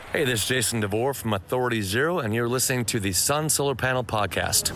Hey, this is Jason DeVore from Authority Zero, and you're listening to the Sun Solar Panel Podcast.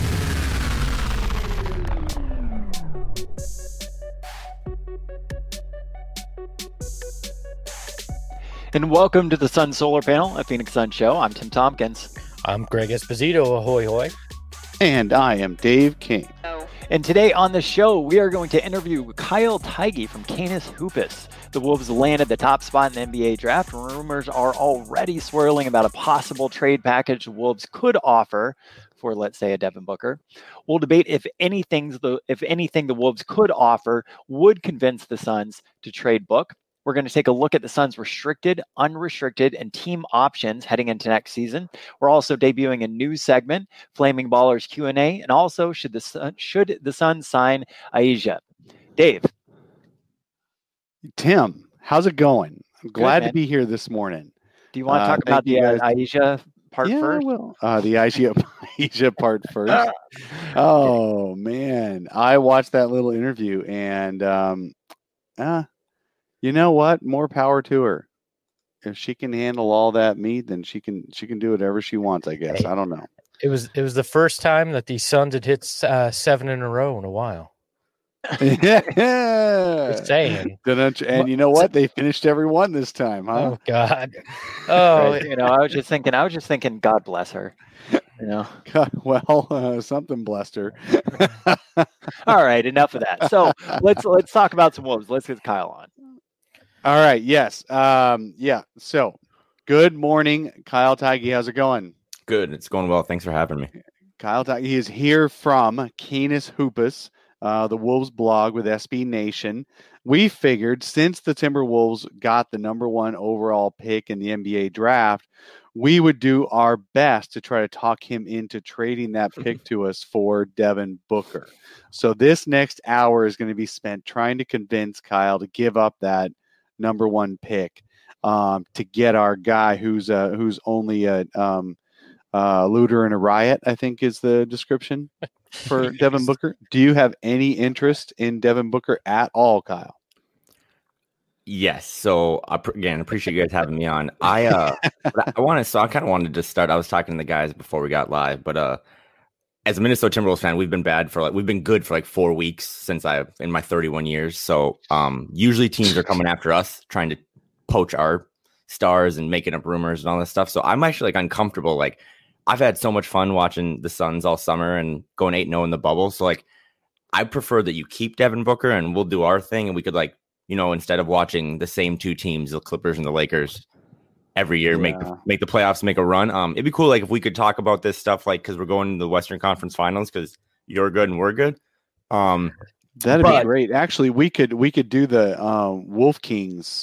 And welcome to the Sun Solar Panel, a Phoenix Sun show. I'm Tim Tompkins. I'm Greg Esposito. Ahoy, hoy. And I am Dave King. And today on the show, we are going to interview Kyle Theige from Canis Hoopus. The Wolves landed the top spot in the NBA draft. Rumors are already swirling about a possible trade package the Wolves could offer for, let's say, a Devin Booker. We'll debate if anything the Wolves could offer would convince the Suns to trade Book. We're going to take a look at the Suns' restricted, unrestricted, and team options heading into next season. We're also debuting a new segment, Flaming Ballers Q&A, and also should the Suns sign A'ja? Dave. Tim, how's it going? I'm glad man. to be here this morning. Do you want to talk about the A'ja part first? Well, the A'ja part first. Oh, man. I watched that little interview, and you know what? More power to her. If she can handle all that meat, then she can do whatever she wants, I guess. I don't know. It was the first time that the Suns had hit 7 in a row in a while. Yeah. Just saying. And you know what? They finished every one this time, huh? Oh God. Oh, I was just thinking, God bless her. Well, something blessed her. All right, enough of that. So let's talk about some Wolves. Let's get Kyle on. All right. Yes. So good morning, Kyle Theige. How's it going? Good. It's going well. Thanks for having me. Kyle Theige is here from Canis Hoopus, the Wolves blog with SB Nation. We figured since the Timberwolves got the number 1 overall pick in the NBA draft, we would do our best to try to talk him into trading that pick to us for Devin Booker. So this next hour is going to be spent trying to convince Kyle to give up that number 1 pick to get our guy who's only a looter and a riot, I think is the description for Devin Booker. Do you have any interest in Devin Booker at all, Kyle? Yes. So again, appreciate you guys having me on. I kind of wanted to start. I was talking to the guys before we got live, but as a Minnesota Timberwolves fan, we've been good for like 4 weeks in my 31 years. So usually teams are coming after us, trying to poach our stars and making up rumors and all this stuff. So I'm actually like uncomfortable. Like I've had so much fun watching the Suns all summer and going 8-0 in the bubble. So like I prefer that you keep Devin Booker and we'll do our thing, and we could instead of watching the same 2 teams, the Clippers and the Lakers, every year, make the playoffs, make a run. It'd be cool, like if we could talk about this stuff, like because we're going to the Western Conference Finals, because you're good and we're good. That'd be great. Actually, we could do the Wolf Kings,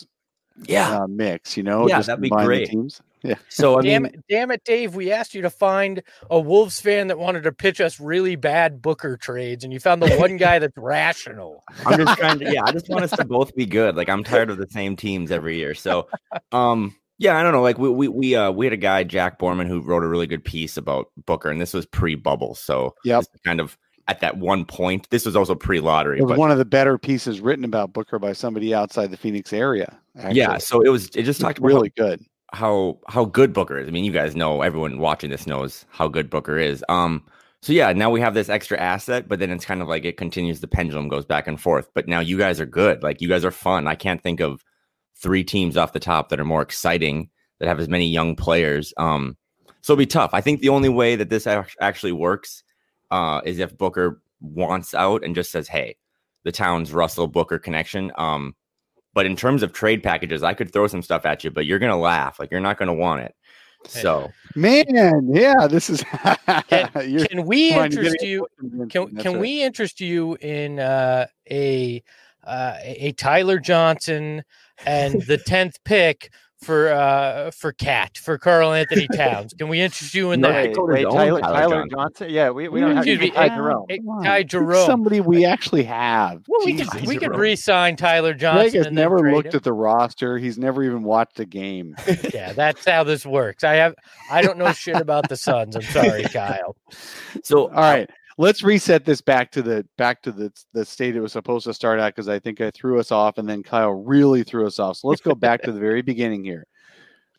mix. Yeah, that'd be great. Teams. Yeah. So damn it, Dave. We asked you to find a Wolves fan that wanted to pitch us really bad Booker trades, and you found the one guy that's rational. I'm just trying to. Yeah, I just want us to both be good. Like I'm tired of the same teams every year. So, yeah, I don't know. Like we had a guy, Jack Borman, who wrote a really good piece about Booker, and this was pre-bubble. So kind of at that one point. This was also pre-lottery. It was one of the better pieces written about Booker by somebody outside the Phoenix area. Actually. Yeah, so it just talked about really good. How good Booker is. I mean, you guys know, everyone watching this knows how good Booker is. So yeah, now we have this extra asset, but then it's kind of like it continues. The pendulum goes back and forth. But now you guys are good. Like you guys are fun. I can't think of 3 teams off the top that are more exciting, that have as many young players. So it'll be tough. I think the only way that this actually works is if Booker wants out and just says, hey, the Towns Russell Booker connection. But in terms of trade packages, I could throw some stuff at you, but you're going to laugh. Like you're not going to want it. So, man, yeah, this is. Can we interest you? Can we interest you in a Tyler Johnson and the 10th pick for Karl Anthony Towns? Can we interest you in that? Tyler Johnson? Yeah, we don't have Ty Jerome. Somebody we actually have. Well, we could re-sign Tyler Johnson. Greg has never looked at the roster. He's never even watched a game. Yeah, that's how this works. I don't know shit about the Suns. I'm sorry, Kyle. So all right. Let's reset this back to the state it was supposed to start at, because I think I threw us off and then Kyle really threw us off. So let's go back to the very beginning here.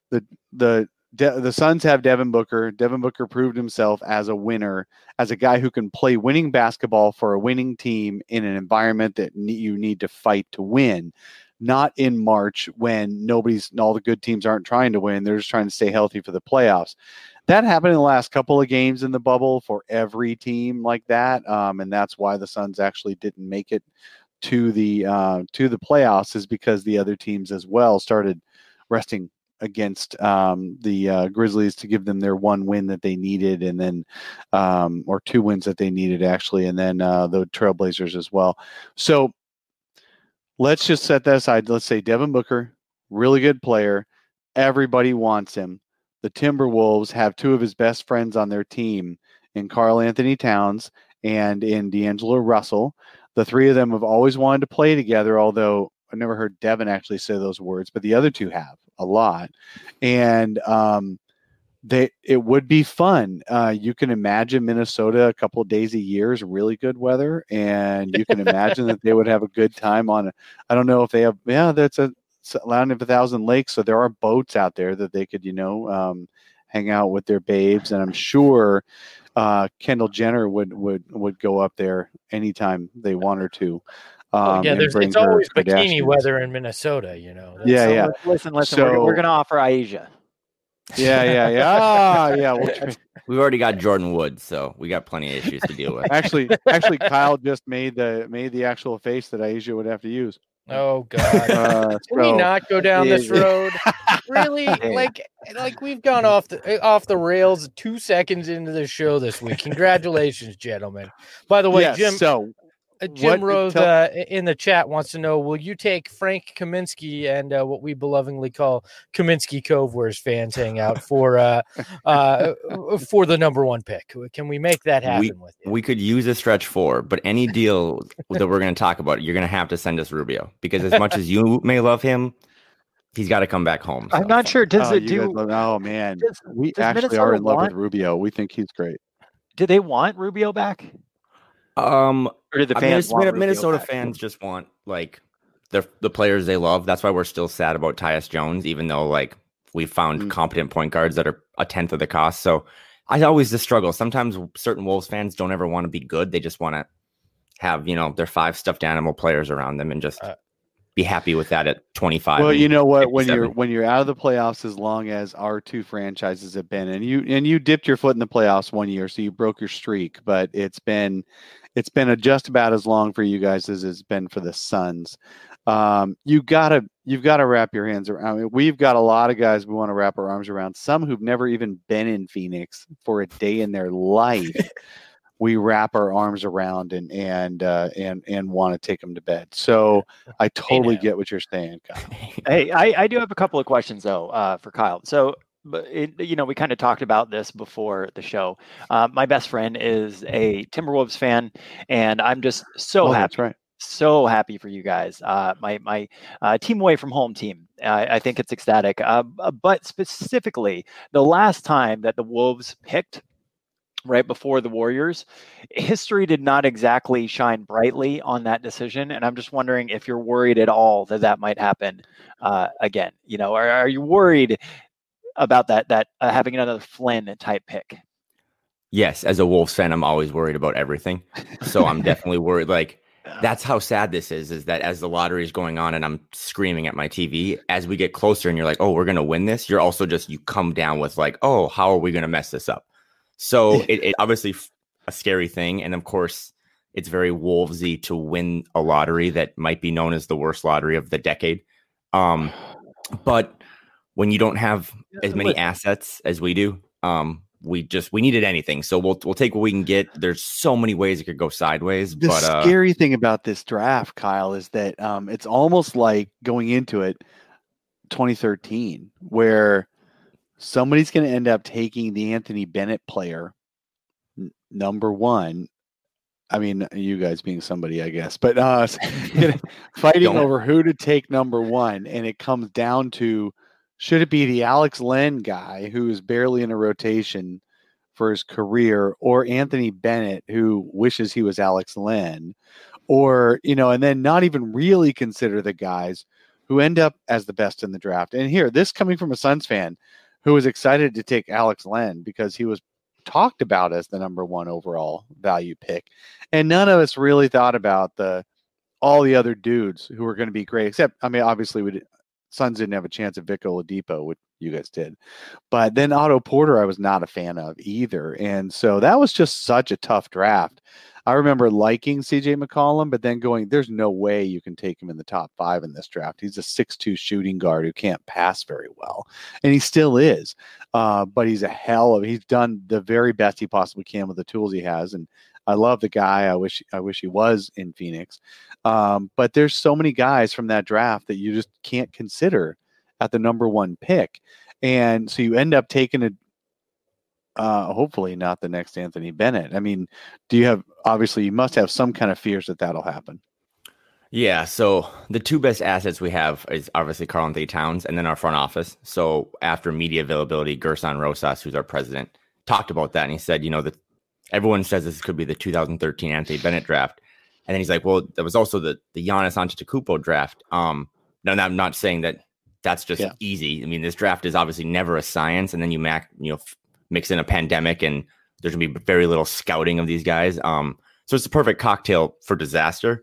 the Suns have Devin Booker. Devin Booker proved himself as a winner, as a guy who can play winning basketball for a winning team in an environment that you need to fight to win. Not in March when all the good teams aren't trying to win. They're just trying to stay healthy for the playoffs. That happened in the last couple of games in the bubble for every team like that. And that's why the Suns actually didn't make it to the playoffs, is because the other teams as well started resting against the Grizzlies to give them their one win that they needed, and then or two wins that they needed actually, and then the Trailblazers as well. So let's just set that aside. Let's say Devin Booker, really good player. Everybody wants him. The Timberwolves have two of his best friends on their team in Karl Anthony Towns and in D'Angelo Russell. The three of them have always wanted to play together, although I never heard Devin actually say those words, but the other two have a lot. And it would be fun. You can imagine Minnesota a couple of days a year is really good weather, and you can imagine that they would have a good time on. I don't know if they have. Yeah, that's a land of 1,000 lakes, so there are boats out there that they could, hang out with their babes, and I'm sure Kendall Jenner would go up there anytime they want her to. It's always bikini weather in Minnesota, Yeah. Listen. We're going to offer Ayesha. Yeah. We've already got Jordan Woods, so we got plenty of issues to deal with. Actually, Kyle just made the actual face that Ayesha would have to use. Oh God! Can we not go down this road? Really? Like we've gone off the rails 2 seconds into the show this week. Congratulations, gentlemen. By the way, yes, Jim. So Jim Rose in the chat wants to know: will you take Frank Kaminsky and what we belovingly call Kaminsky Cove, where his fans hang out, for the number one pick? Can we make that happen with you? We could use a stretch 4, but any deal that we're going to talk about, you're going to have to send us Rubio, because as much as you may love him, he's got to come back home. I'm not sure. Does it do? Oh man, we actually are in love with Rubio. We think he's great. Do they want Rubio back? Or did the fans want Minnesota fans just want the players they love. That's why we're still sad about Tyus Jones, even though we found competent point guards that are a tenth of the cost. So I always just struggle. Sometimes certain Wolves fans don't ever want to be good. They just want to have, their 5 stuffed animal players around them and just be happy with that at 25. Well, you know what? When you're out of the playoffs, as long as our two franchises have been, and you dipped your foot in the playoffs one year, so you broke your streak, but it's been just about as long for you guys as it's been for the Suns. You've got to wrap your hands around. I mean, we've got a lot of guys we want to wrap our arms around. Some who've never even been in Phoenix for a day in their life. We wrap our arms around and want to take them to bed. So I totally get what you're saying, Kyle. Hey, I do have a couple of questions though for Kyle. So, we kind of talked about this before the show. My best friend is a Timberwolves fan, and I'm just so happy. That's right. So happy for you guys. My team away from home team. I think it's ecstatic. But specifically, the last time that the Wolves picked right before the Warriors, history did not exactly shine brightly on that decision. And I'm just wondering if you're worried at all that might happen again. Are you worried about that having another Flynn type pick? Yes, as a Wolves fan, I'm always worried about everything. So I'm definitely worried. That's how sad this is that as the lottery is going on and I'm screaming at my TV, as we get closer and you're like, oh, we're going to win this. You're also you come down with oh, how are we going to mess this up? So it obviously a scary thing. And of course, it's very Wolvesy to win a lottery that might be known as the worst lottery of the decade. But when you don't have as many assets as we do, we needed anything. So we'll take what we can get. There's so many ways it could go sideways. The scary thing about this draft, Kyle, is that it's almost like going into it 2013, where somebody's going to end up taking the Anthony Bennett player, number 1. I mean, you guys being somebody, I guess, but fighting over who to take number 1. And it comes down to, should it be the Alex Len guy who is barely in a rotation for his career, or Anthony Bennett who wishes he was Alex Len, or, and then not even really consider the guys who end up as the best in the draft. And here, this coming from a Suns fan who was excited to take Alex Len because he was talked about as the number 1 overall value pick. And none of us really thought about all the other dudes who were going to be great, except, I mean, obviously Suns didn't have a chance at Vic Oladipo, which you guys did. But then Otto Porter, I was not a fan of either. And so that was just such a tough draft. I remember liking CJ McCollum, but then going, there's no way you can take him in the top 5 in this draft. He's a 6'2" shooting guard who can't pass very well. And he still is. But he's he's done the very best he possibly can with the tools he has. And I love the guy. I wish he was in Phoenix. But there's so many guys from that draft that you just can't consider at the number 1 pick. And so you end up taking hopefully not the next Anthony Bennett. I mean, obviously you must have some kind of fears that that'll happen. Yeah. So the 2 best assets we have is obviously Karl-Anthony Towns and then our front office. So after media availability, Gerson Rosas, who's our president, talked about that. And he said, that everyone says this could be the 2013 Anthony Bennett draft. And then he's like, well, there was also the Giannis Antetokounmpo draft. Now, I'm not saying that that's just easy. I mean, this draft is obviously never a science. And then you mix in a pandemic and there's going to be very little scouting of these guys. So it's a perfect cocktail for disaster.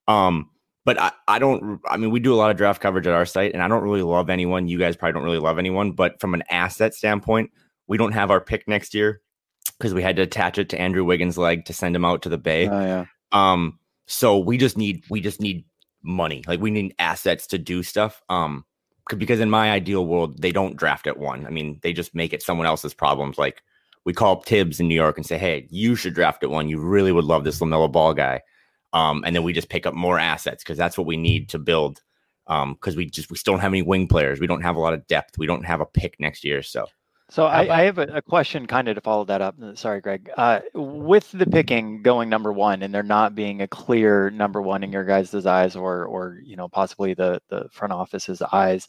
But we do a lot of draft coverage at our site and I don't really love anyone. You guys probably don't really love anyone, but from an asset standpoint, we don't have our pick next year because we had to attach it to Andrew Wiggins' leg to send him out to the Bay. Oh, yeah. So we just need money. Like we need assets to do stuff. Because in my ideal world, they don't draft at 1. I mean, they just make it someone else's problems. Like we call up Tibbs in New York and say, hey, you should draft at 1. You really would love this LaMelo Ball guy. And then we just pick up more assets because that's what we need to build. Because we still don't have any wing players. We don't have a lot of depth. We don't have a pick next year. So I have a question kind of to follow that up. Sorry, Greg. With the picking going number 1 and there not being a clear number 1 in your guys' eyes or possibly the front office's eyes,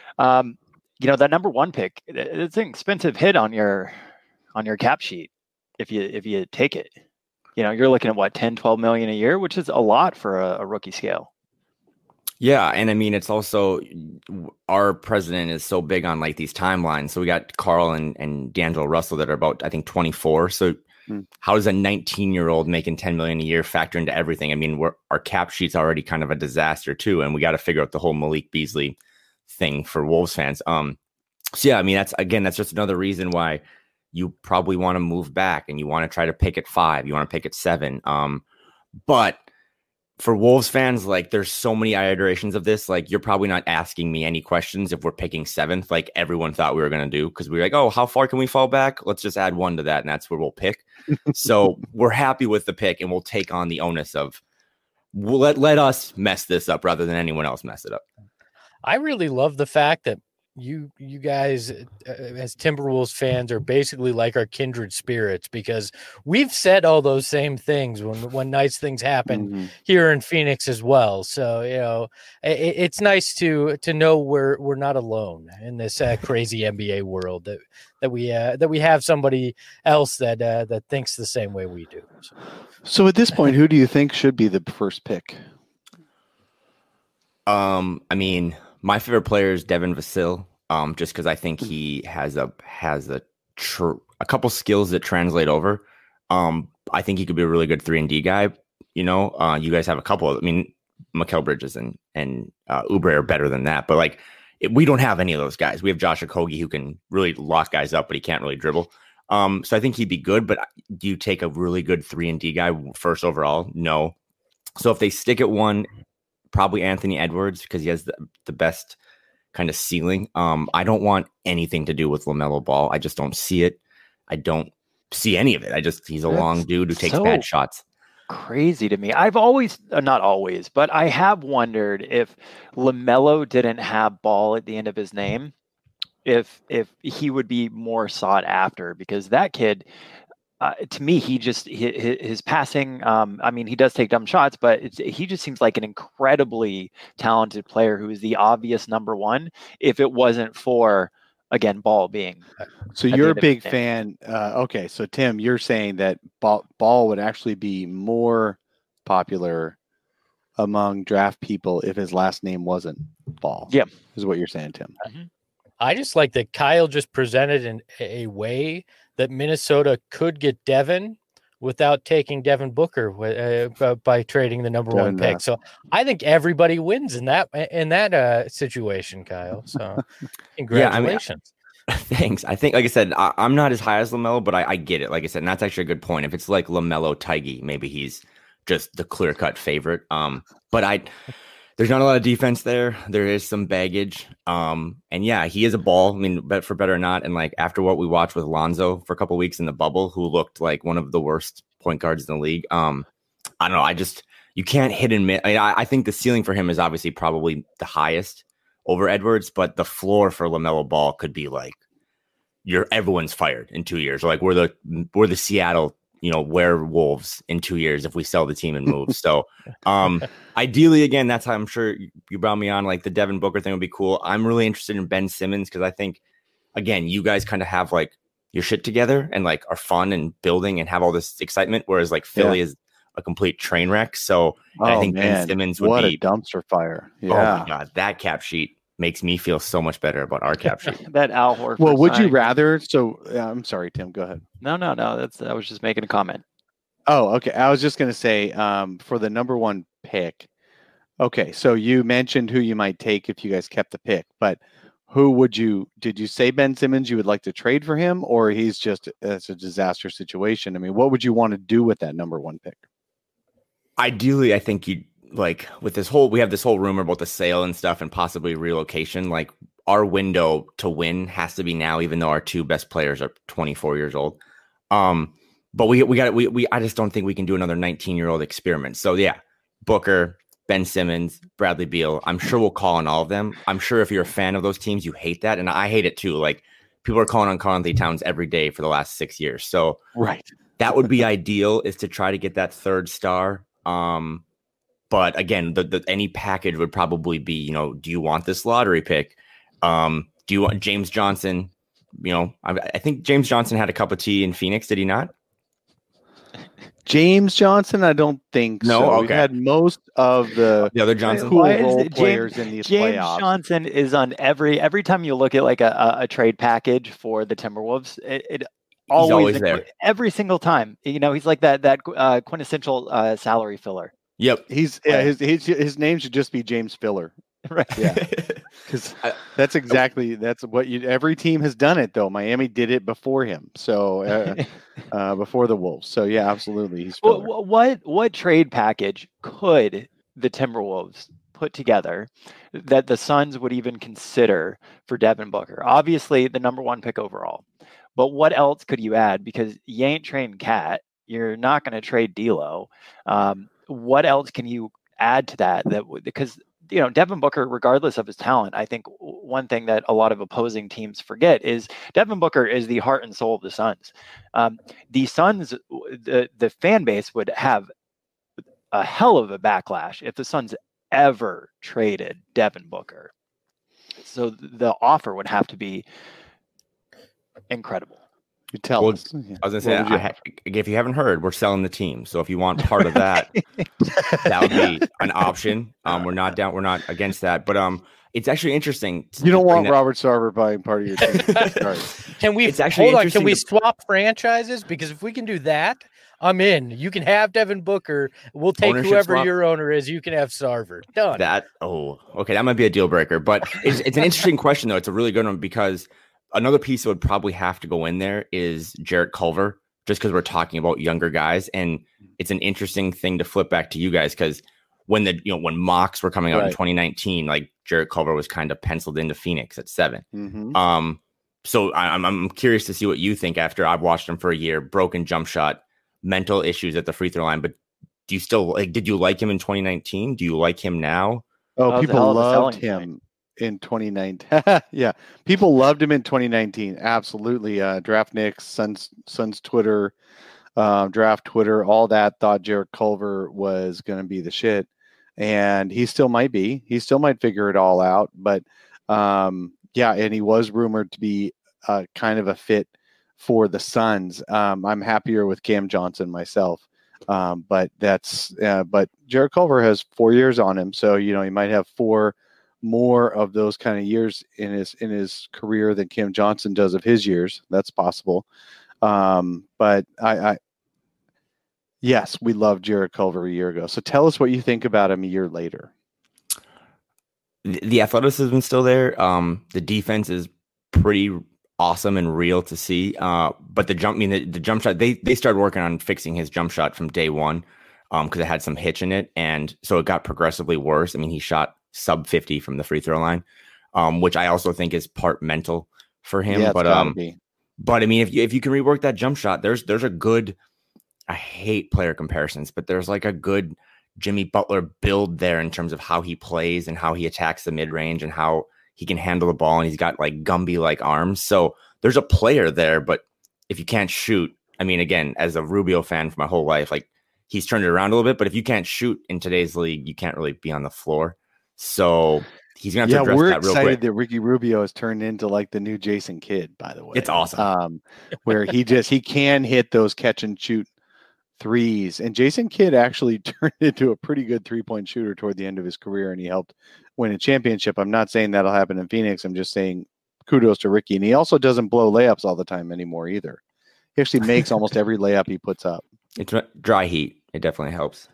that number 1 pick, it's an expensive hit on your cap sheet if you take it. You're looking at what, 10, 12 million a year, which is a lot for a rookie scale. Yeah. And I mean, it's also our president is so big on like these timelines. So we got Carl and D'Angelo Russell that are about, I think, 24. So how does a 19-year-old making 10 million a year factor into everything? I mean, our cap sheet's already kind of a disaster too. And we got to figure out the whole Malik Beasley thing for Wolves fans. So yeah, I mean, that's just another reason why you probably want to move back and you want to try to pick at 5. You want to pick at 7. But for Wolves fans, like there's so many iterations of this. Like you're probably not asking me any questions if we're picking 7th, like everyone thought we were going to do. Cause we were like, oh, how far can we fall back? Let's just add 1 to that. And that's where we'll pick. So we're happy with the pick and we'll take on the onus of let us mess this up rather than anyone else mess it up. I really love the fact that you guys as Timberwolves fans are basically like our kindred spirits because we've said all those same things when nice things happen here in Phoenix as well. So, it's nice to know we're not alone in this crazy NBA world that we have somebody else that thinks the same way we do. So at this point, who do you think should be the first pick? I mean, my favorite player is Devin Vassell, just because I think he has a couple skills that translate over. I think he could be a really good 3-and-D guy. You guys have a couple. I mean, Mikal Bridges and Oubre are better than that. But we don't have any of those guys. We have Josh Okogie who can really lock guys up, but he can't really dribble. So I think he'd be good. But do you take a really good 3-and-D guy first overall? No. So if they stick at 1. Probably Anthony Edwards because he has the best kind of ceiling. I don't want anything to do with LaMelo Ball. I just don't see it. I don't see any of it. He's a long dude who takes bad shots. Crazy to me. I've always, not always, but I have wondered if LaMelo didn't have Ball at the end of his name, if he would be more sought after because that kid. To me, his passing. I mean, he does take dumb shots, but he just seems like an incredibly talented player who is the obvious number 1. If it wasn't for again Ball being. So you're a big fan. Okay, so Tim, you're saying that Ball would actually be more popular among draft people if his last name wasn't ball. Yeah, is what you're saying, Tim. I just like that Kyle just presented in a way that Minnesota could get Devin without taking Devin Booker by trading the number one pick. So I think everybody wins in that situation, Kyle. So congratulations. Yeah, I mean, thanks. I think, like I said, I'm not as high as LaMelo, but I get it. Like I said, and that's actually a good point. If it's like LaMelo Tiggy, maybe he's just the clear-cut favorite. But there's not a lot of defense there. There is some baggage. And yeah, he is a ball. I mean, for better or not. And like after what we watched with Lonzo for a couple of weeks in the bubble, who looked like one of the worst point guards in the league. I don't know. You can't hit and miss. I think the ceiling for him is obviously probably the highest over Edwards, but the floor for LaMelo Ball could be like everyone's fired in 2 years. Or like we're the Seattle werewolves in 2 years if we sell the team and move. So ideally, again, that's how I'm sure you brought me on. Like the Devin Booker thing would be cool. I'm really interested in Ben Simmons because I think, again, you guys kind of have like your shit together and like are fun and building and have all this excitement, whereas like Philly is a complete train wreck. So I think Ben Simmons would be a dumpster fire. Yeah. Oh my God, that cap sheet makes me feel so much better about our cap sheet. That Al Horford. Well, would you rather? So I'm sorry, Tim. Go ahead. No. I was just making a comment. Oh, okay. I was just going to say for the number one pick. Okay, so you mentioned who you might take if you guys kept the pick, but did you say Ben Simmons you would like to trade for him, or it's a disaster situation? I mean, what would you want to do with that number one pick? Ideally, I think you like with we have this whole rumor about the sale and stuff and possibly relocation. Like our window to win has to be now, even though our two best players are 24 years old. But I just don't think we can do another 19-year-old experiment. So yeah, Booker, Ben Simmons, Bradley Beal. I'm sure we'll call on all of them. I'm sure if you're a fan of those teams, you hate that. And I hate it too. Like people are calling on Karl-Anthony Towns every day for the last 6 years. So that would be ideal, is to try to get that third star. But again, any package would probably be, do you want this lottery pick? Do you want James Johnson? I think James Johnson had a cup of tea in Phoenix. Did he not? James Johnson, I don't think so. Okay. We've had most of the other Johnson players in these James playoffs. Johnson is on every time you look at like a trade package for the Timberwolves. It always there every single time. He's like that quintessential salary filler. Yep. His name should just be James Filler. Right. Yeah. Because that's what every team has done it though. Miami did it before him. So before the Wolves. So yeah, absolutely. He's filler. What trade package could the Timberwolves put together that the Suns would even consider for Devin Booker? Obviously the number one pick overall. But what else could you add? Because you ain't trading Cat. You're not going to trade D'Lo. What else can you add to that? Because Devin Booker, regardless of his talent, I think one thing that a lot of opposing teams forget is Devin Booker is the heart and soul of the Suns. The Suns, the fan base would have a hell of a backlash if the Suns ever traded Devin Booker. So the offer would have to be incredible. You tell us. I was going to say, if you haven't heard, we're selling the team. So if you want part of that, that would be an option. We're not against that. But it's actually interesting. You don't want Robert Sarver buying part of your team. Can we hold on? Can we swap franchises? Because if we can do that, I'm in. You can have Devin Booker. We'll take whoever your owner is. You can have Sarver. Done. Okay. That might be a deal breaker. But it's an interesting question, though. It's a really good one because another piece that would probably have to go in there is Jarrett Culver, just because we're talking about younger guys. And it's an interesting thing to flip back to you guys because when mocks were coming out in 2019, like Jarrett Culver was kind of penciled into Phoenix at 7. Mm-hmm. So I'm curious to see what you think after I've watched him for a year. Broken jump shot, mental issues at the free throw line. But do you still did you like him in 2019? Do you like him now? Oh, people loved him in 2019. Yeah, people loved him in 2019. Absolutely. Draft Knicks, Suns Twitter, draft Twitter, all that thought Jarrett Culver was going to be the shit. And he still might be. He still might figure it all out. But yeah, and he was rumored to be kind of a fit for the Suns. I'm happier with Cam Johnson myself. But Jarrett Culver has 4 years on him. So, he might have four more of those kind of years in his career than Cam Johnson does of his years. That's possible. But yes, we loved Jarrett Culver a year ago. So tell us what you think about him a year later. The athleticism is still there. The defense is pretty awesome and real to see. But the jump shot, they started working on fixing his jump shot from day one because it had some hitch in it. And so it got progressively worse. I mean, he shot sub 50 from the free throw line, which I also think is part mental for him. Yeah, but I mean, if you can rework that jump shot, there's a good, I hate player comparisons, but there's like a good Jimmy Butler build there in terms of how he plays and how he attacks the mid range and how he can handle the ball. And he's got like Gumby like arms. So there's a player there, but if you can't shoot, I mean, again, as a Rubio fan for my whole life, like he's turned it around a little bit, but if you can't shoot in today's league, you can't really be on the floor. So he's going to have to address that real quick. We're excited that Ricky Rubio has turned into like the new Jason Kidd, by the way. It's awesome. Where he can hit those catch and shoot threes. And Jason Kidd actually turned into a pretty good 3-point shooter toward the end of his career, and he helped win a championship. I'm not saying that'll happen in Phoenix. I'm just saying kudos to Ricky. And he also doesn't blow layups all the time anymore either. He actually makes almost every layup he puts up. It's dry heat. It definitely helps.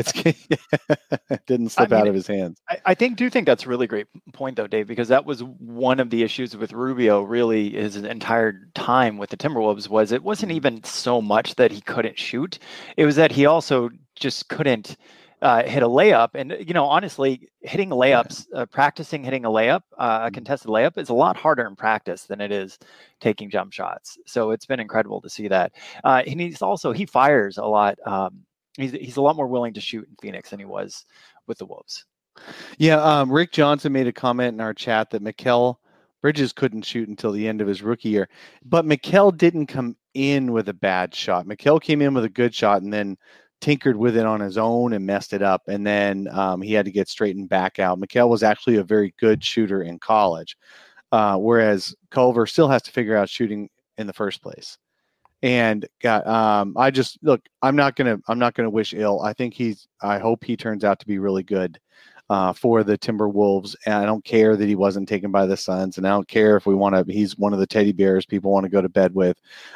It didn't slip out of his hands. I do think that's a really great point, though, Dave, because that was one of the issues with Rubio really his entire time with the Timberwolves was it wasn't even so much that he couldn't shoot. It was that he also just couldn't hit a layup. And, honestly, hitting layups, practicing hitting a layup, a contested layup is a lot harder in practice than it is taking jump shots. So it's been incredible to see that. And he fires a lot. He's a lot more willing to shoot in Phoenix than he was with the Wolves. Yeah, Rick Johnson made a comment in our chat that Mikal Bridges couldn't shoot until the end of his rookie year. But Mikal didn't come in with a bad shot. Mikal came in with a good shot and then tinkered with it on his own and messed it up. And then he had to get straightened back out. Mikal was actually a very good shooter in college, whereas Culver still has to figure out shooting in the first place. And I'm not gonna wish ill. I hope he turns out to be really good for the Timberwolves. And I don't care that he wasn't taken by the Suns, and I don't care if he's one of the teddy bears people want to go to bed with.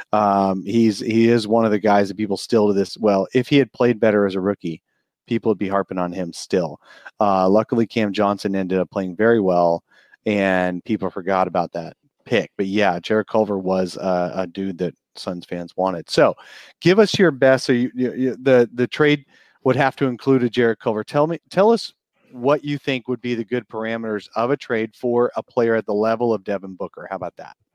He is one of the guys that people still to this. Well, if he had played better as a rookie, people would be harping on him still. Luckily, Cam Johnson ended up playing very well, and people forgot about that pick. But yeah, Jarrett Culver was a dude that Suns fans wanted. So give us your best. So the trade would have to include a Jarrett Culver. Tell us what you think would be the good parameters of a trade for a player at the level of Devin Booker. How about that?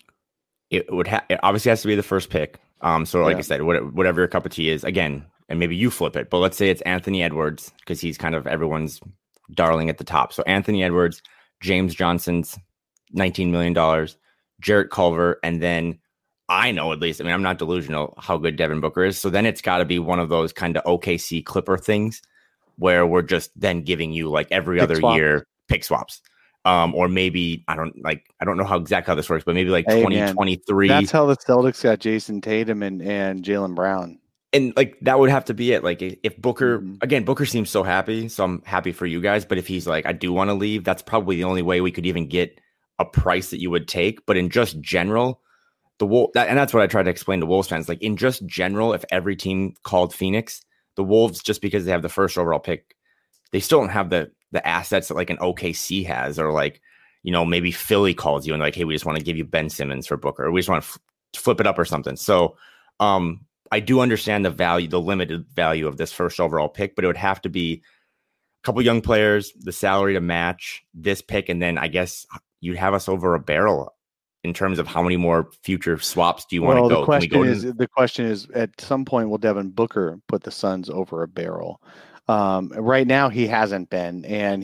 It obviously has to be the first pick. So like I said, whatever your cup of tea is, again, and maybe you flip it, but let's say it's Anthony Edwards because he's kind of everyone's darling at the top. So Anthony Edwards, James Johnson's $19 million, Jarrett Culver, and then I know at least, I mean, I'm not delusional how good Devin Booker is. So then it's got to be one of those kind of OKC Clipper things where we're just then giving you like every other year pick swaps. Or maybe, I don't know exactly how this works, but maybe like 2023. That's how the Celtics got Jason Tatum and Jaylen Brown. And like, that would have to be it. Like if Booker, again, Booker seems so happy. So I'm happy for you guys. But if he's like, I do want to leave, that's probably the only way we could even get a price that you would take. But in just general, and that's what I try to explain to Wolves fans. Like in just general, if every team called Phoenix, the Wolves, just because they have the first overall pick, they still don't have the assets that like an OKC has, or like, maybe Philly calls you and like, hey, we just want to give you Ben Simmons for Booker, or we just want to flip it up or something. So I do understand the limited value of this first overall pick, but it would have to be a couple young players, the salary to match this pick, and then I guess you'd have us over a barrel in terms of how many more future swaps do you want to go? The question is, at some point, will Devin Booker put the Suns over a barrel? Right now, he hasn't been, and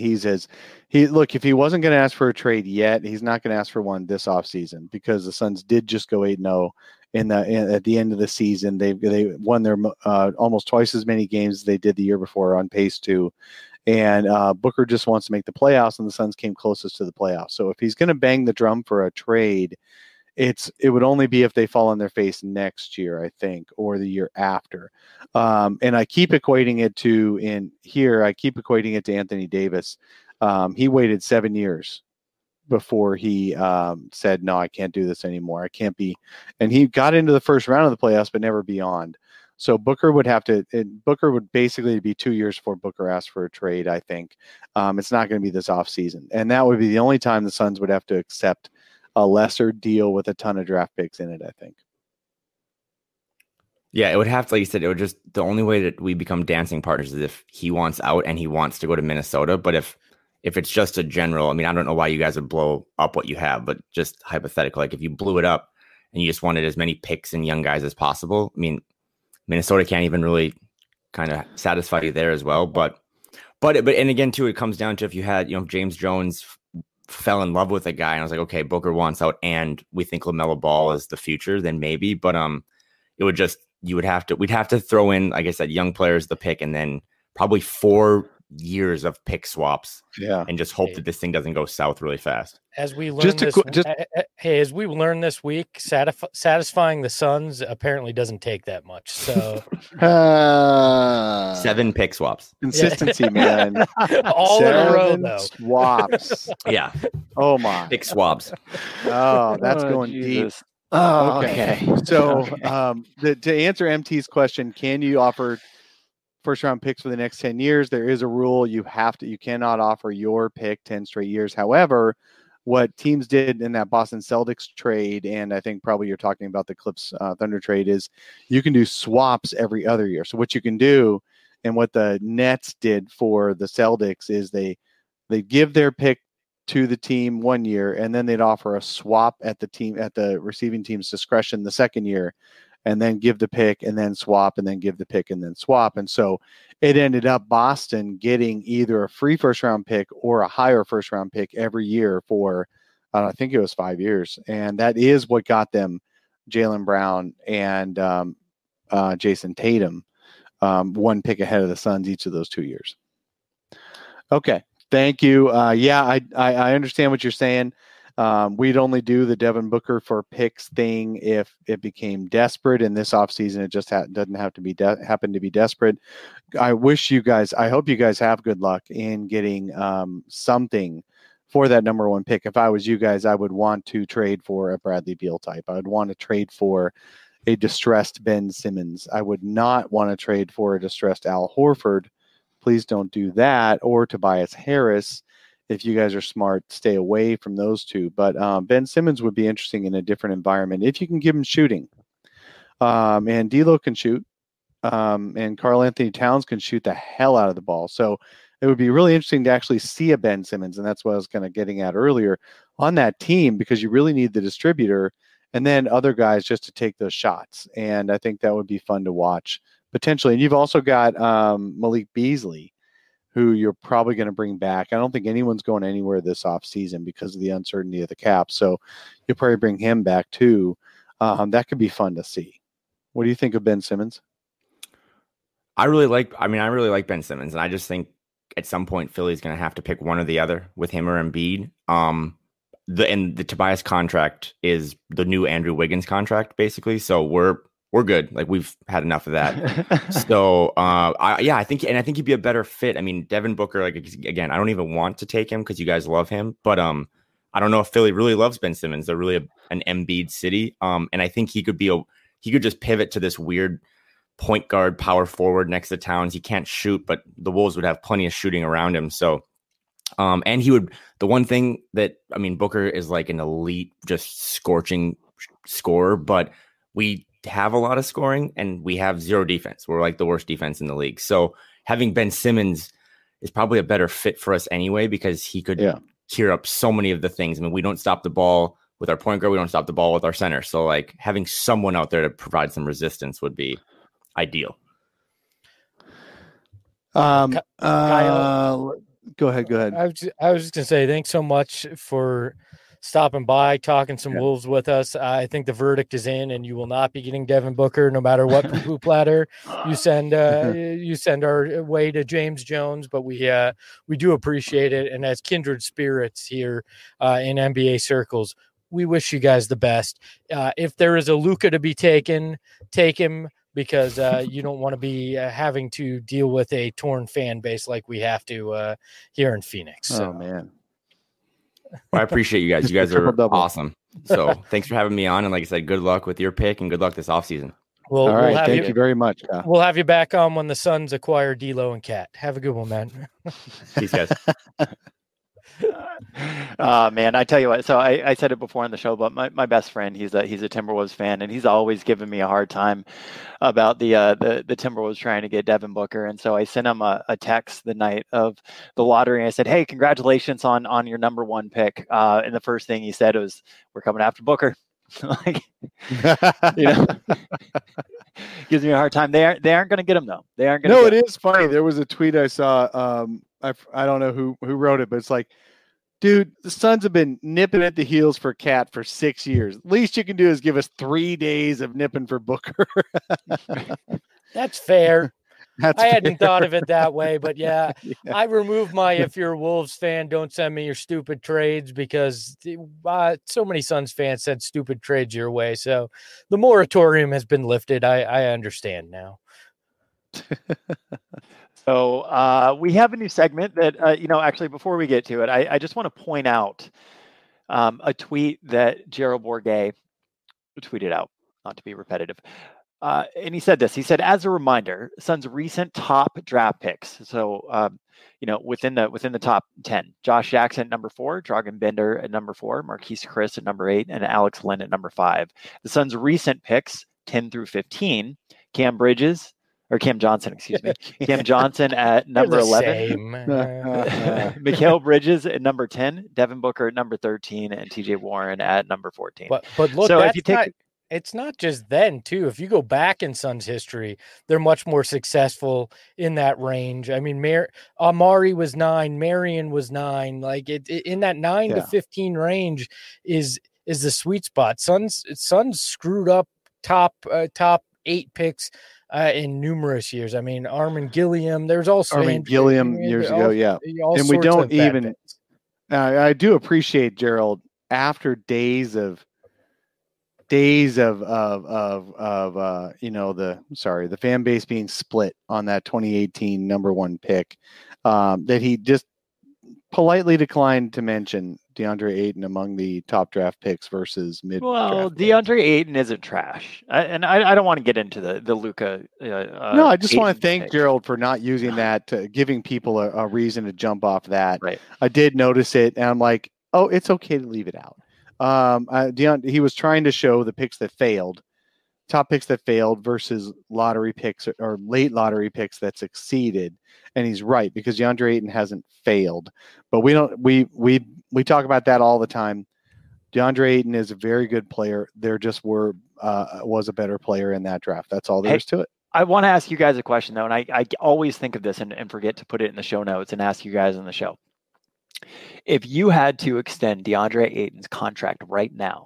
if he wasn't going to ask for a trade yet, he's not going to ask for one this offseason because the Suns did just go 8-0 at the end of the season. They won their almost twice as many games as they did the year before, on pace to. And Booker just wants to make the playoffs, and the Suns came closest to the playoffs. So if he's going to bang the drum for a trade, it would only be if they fall on their face next year, I think, or the year after. And I keep equating it to Anthony Davis. He waited 7 years before he said, no, I can't do this anymore. I can't be. And he got into the first round of the playoffs, but never beyond. So Booker would basically be 2 years before Booker asked for a trade, I think. It's not going to be this offseason. And that would be the only time the Suns would have to accept a lesser deal with a ton of draft picks in it, I think. Yeah, it would have to, like you said, it would just, the only way that we become dancing partners is if he wants out and he wants to go to Minnesota. But if it's just a general, I mean, I don't know why you guys would blow up what you have, but just hypothetical, like if you blew it up and you just wanted as many picks and young guys as possible, I mean, Minnesota can't even really kind of satisfy you there as well. But and again, too, it comes down to if you had, James Jones fell in love with a guy and I was like, okay, Booker wants out and we think LaMelo Ball is the future, then maybe. But we'd have to throw in, like I said, young players, the pick, and then probably 4 years of pick swaps. Yeah. And just hope that this thing doesn't go south really fast. As we learned as we learned this week, satisfying the Suns apparently doesn't take that much. So 7 pick swaps. Consistency, man. All 7 in a row, though. Swaps. Yeah. Oh my. Pick swabs. Oh, that's going Jesus. deep. Oh, okay. So to answer MT's question, can you offer first round picks for the next 10 years? There is a rule. You cannot offer your pick 10 straight years. However, what teams did in that Boston Celtics trade, and I think probably you're talking about the Clips Thunder trade, is you can do swaps every other year. So what you can do, and what the Nets did for the Celtics, is they give their pick to the team 1 year, and then they'd offer a swap at the receiving team's discretion the second year, and then give the pick and then swap, and then give the pick and then swap. And so it ended up Boston getting either a free first round pick or a higher first round pick every year for, I think it was 5 years. And that is what got them Jaylen Brown and Jason Tatum, 1 pick ahead of the Suns each of those 2 years. Okay. Thank you. I understand what you're saying. We'd only do the Devin Booker for picks thing if it became desperate. In this offseason, it just doesn't have to be happen to be desperate. I hope you guys have good luck in getting something for that number 1 pick. If I was you guys, I would want to trade for a Bradley Beal type. I would want to trade for a distressed Ben Simmons. I would not want to trade for a distressed Al Horford. Please don't do that. Or Tobias Harris. If you guys are smart, stay away from those two. But Ben Simmons would be interesting in a different environment if you can give him shooting. And D'Lo can shoot. And Karl Anthony Towns can shoot the hell out of the ball. So it would be really interesting to actually see a Ben Simmons. And that's what I was kind of getting at earlier on that team, because you really need the distributor and then other guys just to take those shots. And I think that would be fun to watch potentially. And you've also got Malik Beasley, who you're probably going to bring back. I don't think anyone's going anywhere this offseason because of the uncertainty of the cap. So you'll probably bring him back too. That could be fun to see. What do you think of Ben Simmons? I really like Ben Simmons, and I just think at some point Philly's going to have to pick one or the other with him or Embiid. The Tobias contract is the new Andrew Wiggins contract, basically. So we're good. Like, we've had enough of that. So, I think he'd be a better fit. I mean, Devin Booker, like, again, I don't even want to take him because you guys love him, but I don't know if Philly really loves Ben Simmons. They're really an Embiid city. And I think he could just pivot to this weird point guard, power forward next to Towns. He can't shoot, but the Wolves would have plenty of shooting around him. So, and he would, the one thing that, I mean, Booker is like an elite, just scorching scorer, but we have a lot of scoring and we have zero defense. We're like the worst defense in the league. So having Ben Simmons is probably a better fit for us anyway, because he could cure up so many of the things. I mean, we don't stop the ball with our point guard. We don't stop the ball with our center. So like having someone out there to provide some resistance would be ideal. Kyle, go ahead. I was just going to say, thanks so much for stopping by, talking some Wolves with us. I think the verdict is in, and you will not be getting Devin Booker no matter what poo-poo platter you send our way to James Jones. But we do appreciate it, and as kindred spirits here in NBA circles, we wish you guys the best. If there is a Luka to be taken, take him. because you don't want to be having to deal with a torn fan base like we have to here in Phoenix. So. Oh, man. Well, I appreciate you guys. You guys are awesome. So thanks for having me on. And like I said, good luck with your pick and good luck this offseason. All right. Thank you very much. We'll have you back on when the Suns acquire D'Lo and Cat. Have a good one, man. Peace, guys. Man, I tell you what. So I said it before on the show, but my best friend, he's a Timberwolves fan, and he's always given me a hard time about the Timberwolves trying to get Devin Booker. And so I sent him a text the night of the lottery, and I said, "Hey, congratulations on your number one pick." And the first thing he said was, "We're coming after Booker." Like, gives me a hard time. They aren't going to get him though. They aren't going. No, it is funny. There was a tweet I saw. I don't know who wrote it, but it's like, dude, the Suns have been nipping at the heels for Cat for 6 years. Least you can do is give us 3 days of nipping for Booker. That's fair. I hadn't thought of it that way, but yeah, I removed my if you're a Wolves fan, don't send me your stupid trades, because so many Suns fans sent stupid trades your way. So the moratorium has been lifted. I understand now. So we have a new segment that, actually, before we get to it, I just want to point out a tweet that Gerald Bourguet tweeted out, not to be repetitive. And he said this. He said, as a reminder, Suns' recent top draft picks. So, within the top 10, Josh Jackson at number 4, Dragan Bender at number 4, Marquise Chris at number 8, and Alex Len at number 5. The Suns' recent picks, 10 through 15, Cam Johnson, Cam Johnson at number 11, Mikal Bridges at number 10, Devin Booker at number 13, and TJ Warren at number 14. But look, so if you take it's not just then too. If you go back in Suns history, they're much more successful in that range. I mean, Amari was 9, Marion was 9. Like in that 9 to 15 range is the sweet spot. Suns screwed up top 8 picks in numerous years. I mean, Armin Gilliam. There's also Armin Gilliam years ago, yeah. And we don't even. I do appreciate Gerald after days of the fan base being split on that 2018 number 1 pick, that he just politely declined to mention DeAndre Ayton among the top draft picks versus mid. Well, DeAndre Ayton isn't trash, I don't want to get into the Luka. No, I just want to thank Gerald for not using that, giving people a reason to jump off that. Right. I did notice it, and I'm like, oh, it's okay to leave it out. He was trying to show the picks that failed, top picks that failed versus lottery picks or late lottery picks that succeeded. And he's right, because DeAndre Ayton hasn't failed, but we talk about that all the time. DeAndre Ayton is a very good player. There just was a better player in that draft. That's all there is to it. I want to ask you guys a question though. And I always think of this and forget to put it in the show notes and ask you guys on the show. If you had to extend DeAndre Ayton's contract right now,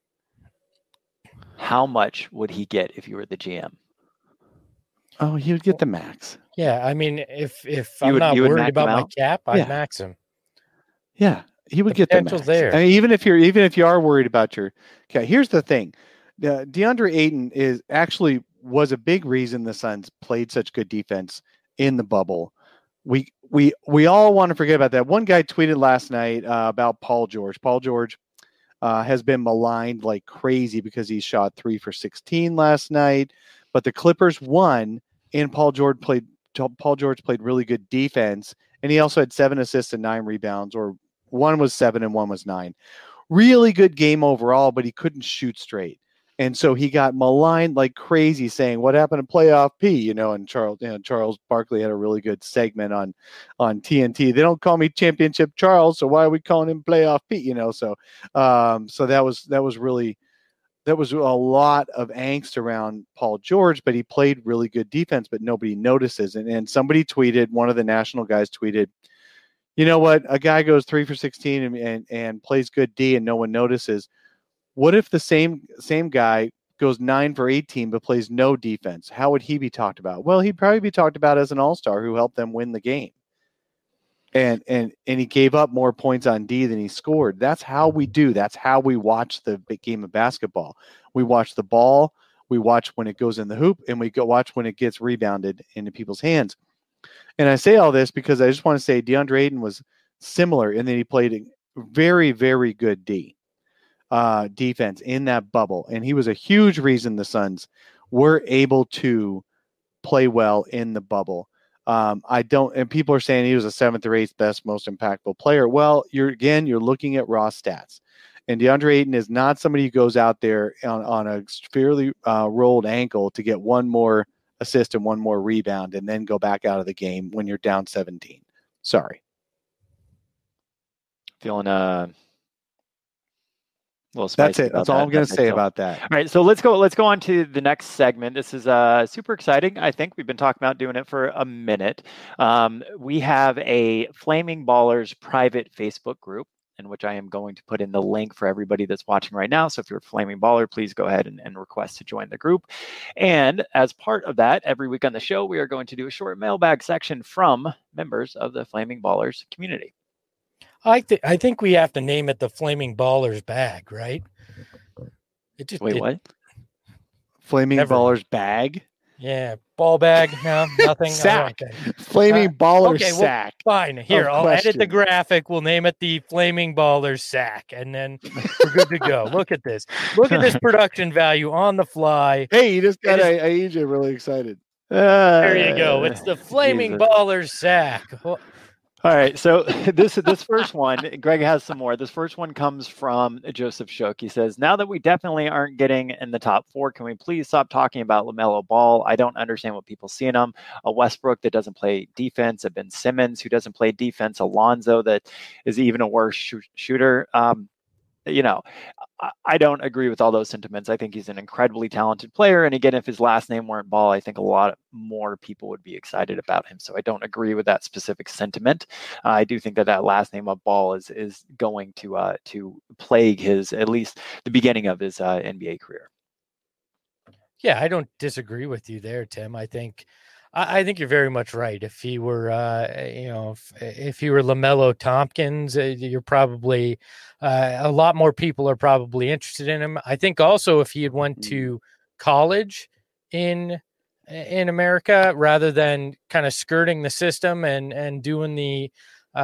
how much would he get if you were the GM? Oh, he would get the max. Yeah, I mean, if I'm not worried about my cap, I'd max him. Yeah, he would get the max. There. I mean, even if you are worried about your cap, here's the thing: DeAndre Ayton was a big reason the Suns played such good defense in the bubble. We all want to forget about that. One guy tweeted last night about Paul George. Paul George has been maligned like crazy because he shot 3 for 16 last night, but the Clippers won, and Paul George played really good defense, and he also had 7 assists and 9 rebounds, or one was 7 and one was 9. Really good game overall, but he couldn't shoot straight. And so he got maligned like crazy, saying, "What happened to playoff P?" And Charles Barkley had a really good segment on TNT. They don't call me Championship Charles, so why are we calling him playoff P? So that was a lot of angst around Paul George, but he played really good defense, but nobody notices. And somebody tweeted, one of the national guys tweeted, "You know what? A guy goes 3 for 16 and plays good D, and no one notices. What if the same guy goes 9 for 18 but plays no defense? How would he be talked about?" Well, he'd probably be talked about as an all-star who helped them win the game. And he gave up more points on D than he scored. That's how we do. That's how we watch the game of basketball. We watch the ball, We watch when it goes in the hoop, and we go watch when it gets rebounded into people's hands. And I say all this because I just want to say DeAndre Ayton was similar in that he played a very, very good defense in that bubble. And he was a huge reason the Suns were able to play well in the bubble. And people are saying he was the 7th or 8th best, most impactful player. Well, you're looking at raw stats. And DeAndre Ayton is not somebody who goes out there on a fairly rolled ankle to get one more assist and one more rebound and then go back out of the game when you're down 17. Sorry. Feeling a little spicy. That's it. That's all I'm going to say about that. All right, so let's go on to the next segment. This is super exciting. I think we've been talking about doing it for a minute. We have a Flaming Ballers private Facebook group, in which I am going to put in the link for everybody that's watching right now. So if you're a Flaming Baller, please go ahead and request to join the group. And as part of that, every week on the show, we are going to do a short mailbag section from members of the Flaming Ballers community. I think we have to name it the Flaming Ballers bag, right? What? Flaming Ballers bag? Yeah, ball bag. No, nothing. Sack. Flaming Baller sack. Well, fine. Here, I'll edit the graphic. We'll name it the Flaming Ballers sack, and then we're good to go. Look at this. Look at this production value on the fly. Hey, you just got AJ really excited. There you go. It's the Flaming Ballers sack. All right, so this first one, Greg has some more. This first one comes from Joseph Shook. He says, now that we definitely aren't getting in the top 4, can we please stop talking about LaMelo Ball? I don't understand what people see in him. A Westbrook that doesn't play defense, a Ben Simmons who doesn't play defense, a Lonzo that is even a worse shooter. I don't agree with all those sentiments. I think he's an incredibly talented player. And again, if his last name weren't Ball, I think a lot more people would be excited about him. So I don't agree with that specific sentiment. I do think that last name of Ball is going to plague at least the beginning of his NBA career. Yeah, I don't disagree with you there, Tim. I think you're very much right. If he were, if he were LaMelo Tompkins, you're probably a lot more people are probably interested in him. I think also if he had went to college in America rather than kind of skirting the system and doing the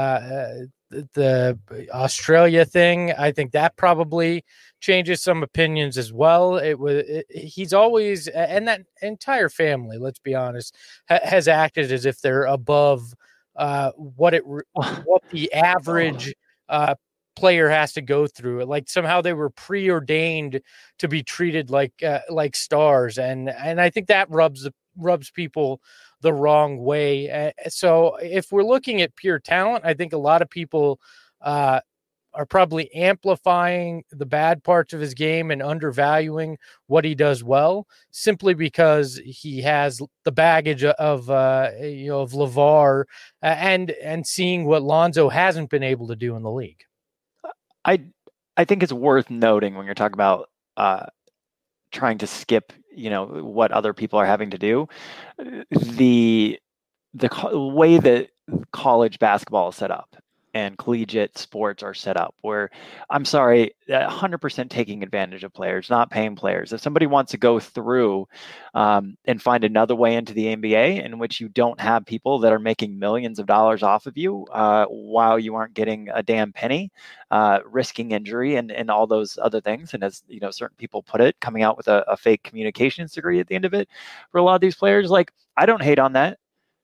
Australia thing, I think that probably changes some opinions as well. He's always, and that entire family, let's be honest, has acted as if they're above what the average player has to go through. Like somehow they were preordained to be treated like stars, and I think that rubs people the wrong way. So if we're looking at pure talent, I think a lot of people are probably amplifying the bad parts of his game and undervaluing what he does well, simply because he has the baggage of LeVar and seeing what Lonzo hasn't been able to do in the league. I think it's worth noting when you're talking about trying to skip, what other people are having to do. The way that college basketball is set up and collegiate sports are set up, where 100% taking advantage of players, not paying players. If somebody wants to go through and find another way into the NBA in which you don't have people that are making millions of dollars off of you while you aren't getting a damn penny, risking injury and all those other things. And as certain people put it, coming out with a fake communications degree at the end of it for a lot of these players, I don't hate on that.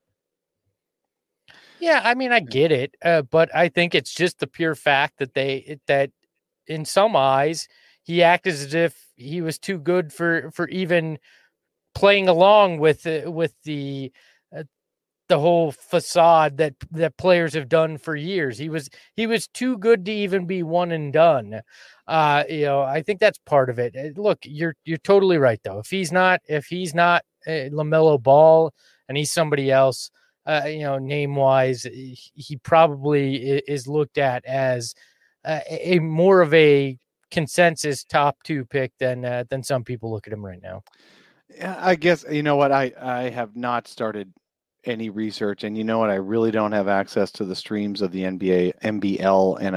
Yeah, I mean, I get it, but I think it's just the pure fact that in some eyes he acted as if he was too good for even playing along with the whole facade that players have done for years. He was too good to even be one and done. I think that's part of it. Look, you're totally right though. If he's not LaMelo Ball and he's somebody else, name wise, he probably is looked at as a more of a consensus top 2 pick than some people look at him right now. Yeah, I guess, what, I have not started any research, and I really don't have access to the streams of the NBA, NBL, and I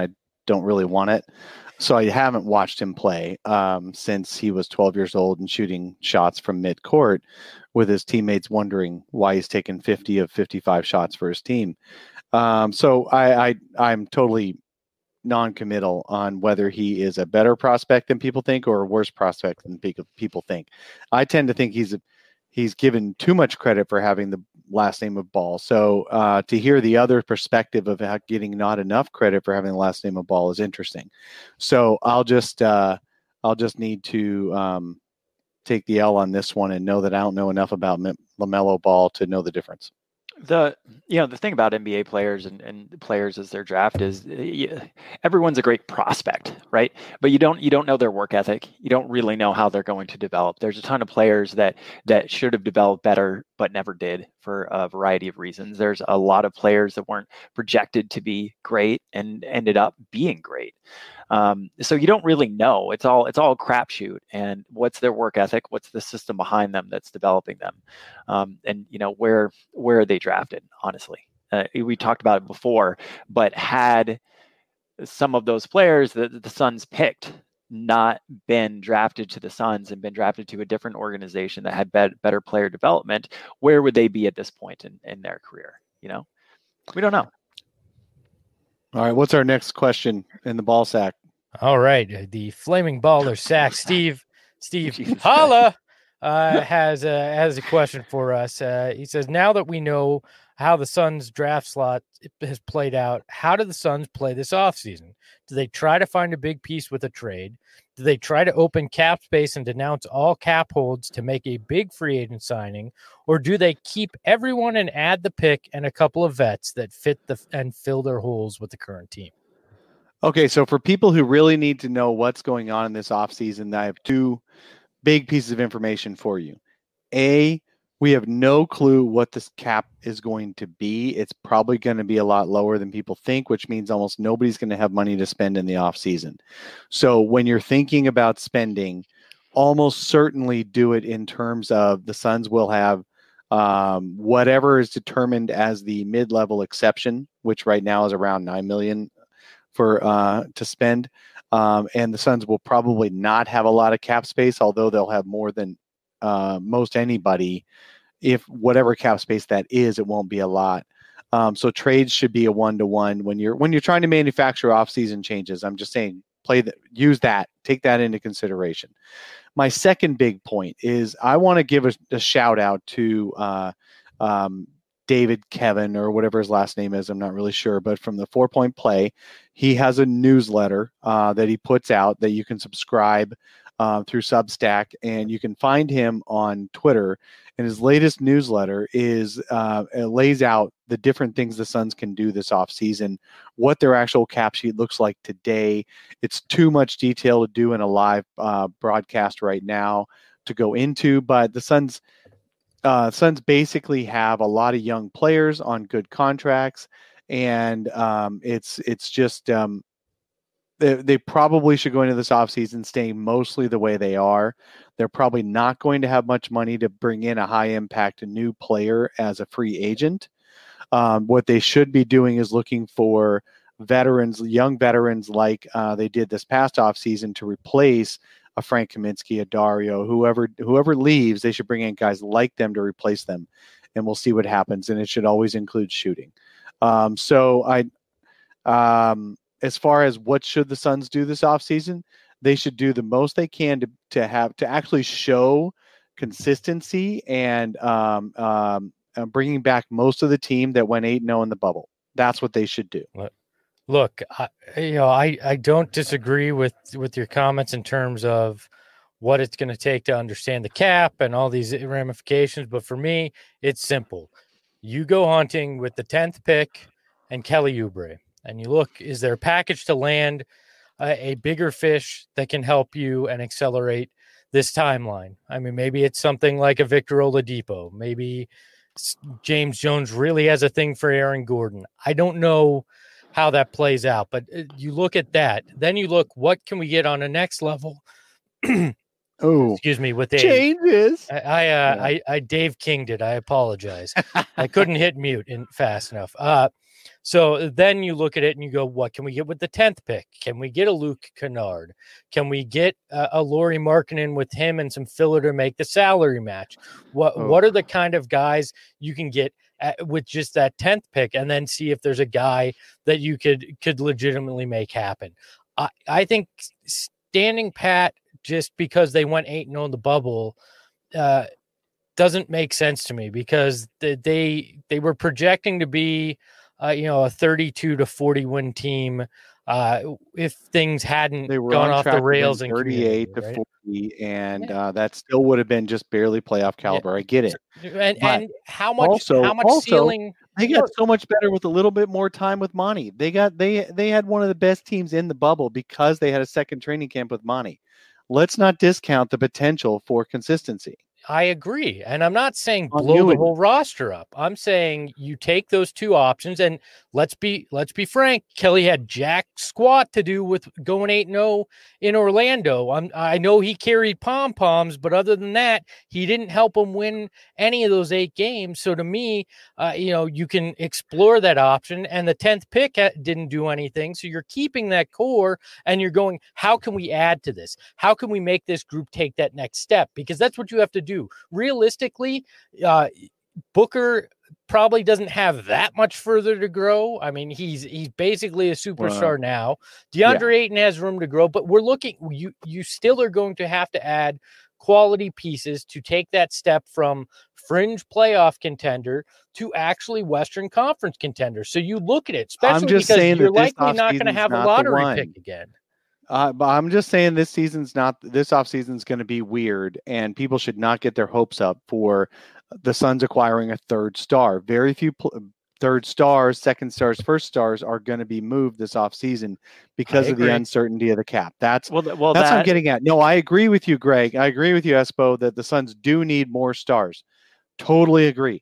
don't really want it. So I haven't watched him play since he was 12 years old and shooting shots from mid-court with his teammates wondering why he's taken 50 of 55 shots for his team. So I'm totally non-committal on whether he is a better prospect than people think or a worse prospect than people think. I tend to think he's given too much credit for having the last name of Ball. So to hear the other perspective of getting not enough credit for having the last name of Ball is interesting. So I'll just need to take the L on this one and know that I don't know enough about LaMelo Ball to know the difference. The thing about NBA players and players as their draft is everyone's a great prospect, right? But you don't know their work ethic. You don't really know how they're going to develop. There's a ton of players that should have developed better but never did for a variety of reasons. There's a lot of players that weren't projected to be great and ended up being great. So you don't really know. It's all a crapshoot. And what's their work ethic? What's the system behind them that's developing them? And where are they drafted? Honestly, we talked about it before. But had some of those players that the Suns picked not been drafted to the Suns and been drafted to a different organization that had better player development, where would they be at this point in their career? We don't know. All right, what's our next question in the ball sack? All right, the flaming baller sack. Steve Holla has a question for us. He says, now that we know how the Suns draft slot has played out, how do the Suns play this offseason? Do they try to find a big piece with a trade? Do they try to open cap space and denounce all cap holds to make a big free agent signing? Or do they keep everyone and add the pick and a couple of vets that fit and fill their holes with the current team? Okay, so for people who really need to know what's going on in this offseason, I have two big pieces of information for you. A, we have no clue what this cap is going to be. It's probably going to be a lot lower than people think, which means almost nobody's going to have money to spend in the offseason. So when you're thinking about spending, almost certainly do it in terms of the Suns will have whatever is determined as the mid-level exception, which right now is around $9 million to spend. And the Suns will probably not have a lot of cap space, although they'll have more than most anybody. If whatever cap space that is, it won't be a lot. So trades should be a 1-to-1 when you're trying to manufacture off-season changes. I'm just saying, use that, take that into consideration. My second big point is I want to give a shout out to David Kevin or whatever his last name is. I'm not really sure, but from the 4 Point Play, he has a newsletter that he puts out that you can subscribe through Substack, and you can find him on Twitter. And his latest newsletter it lays out the different things the Suns can do this offseason, what their actual cap sheet looks like today. It's too much detail to do in a live broadcast right now to go into, but the Suns basically have a lot of young players on good contracts, and it's just they probably should go into this offseason staying mostly the way they are. They're probably not going to have much money to bring in a high-impact new player as a free agent. What they should be doing is looking for young veterans like they did this past offseason to replace a Frank Kaminsky, a Dario, whoever leaves. They should bring in guys like them to replace them, and we'll see what happens. And it should always include shooting. As far as what should the Suns do this offseason, they should do the most they can to actually show consistency and bringing back most of the team that went 8-0 in the bubble. That's what they should do. Look, I don't disagree with your comments in terms of what it's going to take to understand the cap and all these ramifications. But for me, it's simple. You go hunting with the 10th pick and Kelly Oubre, and you look, is there a package to land a bigger fish that can help you and accelerate this timeline? I mean, maybe it's something like a Victor Oladipo. Maybe James Jones really has a thing for Aaron Gordon. I don't know how that plays out, but you look at that. Then you look, what can we get on the next level? Oh, excuse me, with changes. I Dave King'd it. I apologize. I couldn't hit mute fast enough. So then you look at it and you go, what can we get with the 10th pick? Can we get a Luke Kennard? Can we get a Lauri Markkanen with him and some filler to make the salary match? What are the kind of guys you can get with just that 10th pick, and then see if there's a guy that you could legitimately make happen? I think standing pat just because they went 8-0 in the bubble doesn't make sense to me, because they were projecting to be a 32 to 40 win team if things hadn't gone off the rails in 38 to 40, and that still would have been just barely playoff caliber. I get it. And how much ceiling they got so much better with a little bit more time with Monty. They had one of the best teams in the bubble because they had a second training camp with Monty. Let's not discount the potential for consistency. I agree. And I'm not saying blow the whole roster up. I'm saying you take those two options, and let's be frank. Kelly had jack squat to do with going 8-0 in Orlando. I know he carried pom-poms, but other than that, he didn't help him win any of those 8 games. So to me, you can explore that option, and the 10th pick didn't do anything. So you're keeping that core, and you're going, how can we add to this? How can we make this group take that next step? Because that's what you have to do. Realistically, Booker probably doesn't have that much further to grow. I mean, he's basically a superstar now. DeAndre Ayton has room to grow, but we're looking. You still are going to have to add quality pieces to take that step from fringe playoff contender to actually Western Conference contender. So you look at it, especially because you're likely not going to have a lottery pick again. But I'm just saying this offseason's going to be weird, and people should not get their hopes up for the Suns acquiring a third star. Very few third stars, second stars, first stars are going to be moved this offseason because of the uncertainty of the cap. That's what I'm getting at. No, I agree with you, Greg. I agree with you, Espo, that the Suns do need more stars. Totally agree.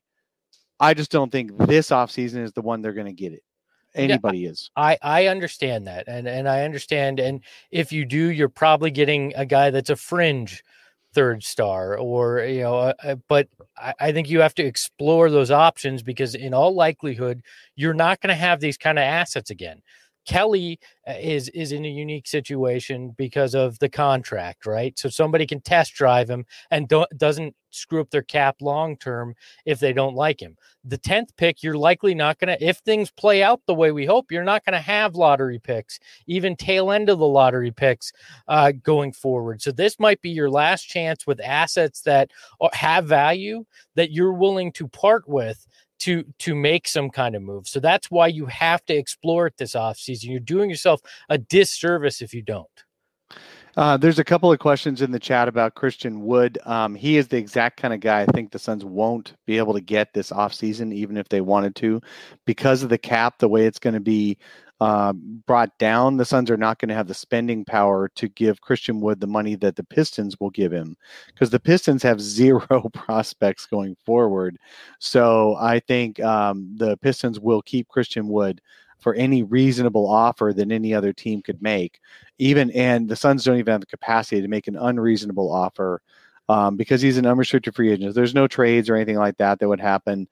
I just don't think this offseason is the one they're going to get it. Anybody is. I understand that. And I understand. And if you do, you're probably getting a guy that's a fringe third star, or, but I think you have to explore those options, because in all likelihood, you're not going to have these kind of assets again. Kelly is in a unique situation because of the contract, right? So somebody can test drive him and doesn't screw up their cap long term if they don't like him. The 10th pick, you're likely not going to, if things play out the way we hope, you're not going to have lottery picks, even tail end of the lottery picks going forward. So this might be your last chance with assets that have value that you're willing to part with to make some kind of move. So that's why you have to explore it this offseason. You're doing yourself a disservice if you don't. There's a couple of questions in the chat about Christian Wood. He is the exact kind of guy I think the Suns won't be able to get this offseason, even if they wanted to, because of the cap, the way it's going to be brought down. The Suns are not going to have the spending power to give Christian Wood the money that the Pistons will give him, because the Pistons have 0 prospects going forward. So I think the Pistons will keep Christian Wood for any reasonable offer that any other team could make, and the Suns don't even have the capacity to make an unreasonable offer because he's an unrestricted free agent. There's no trades or anything like that would happen.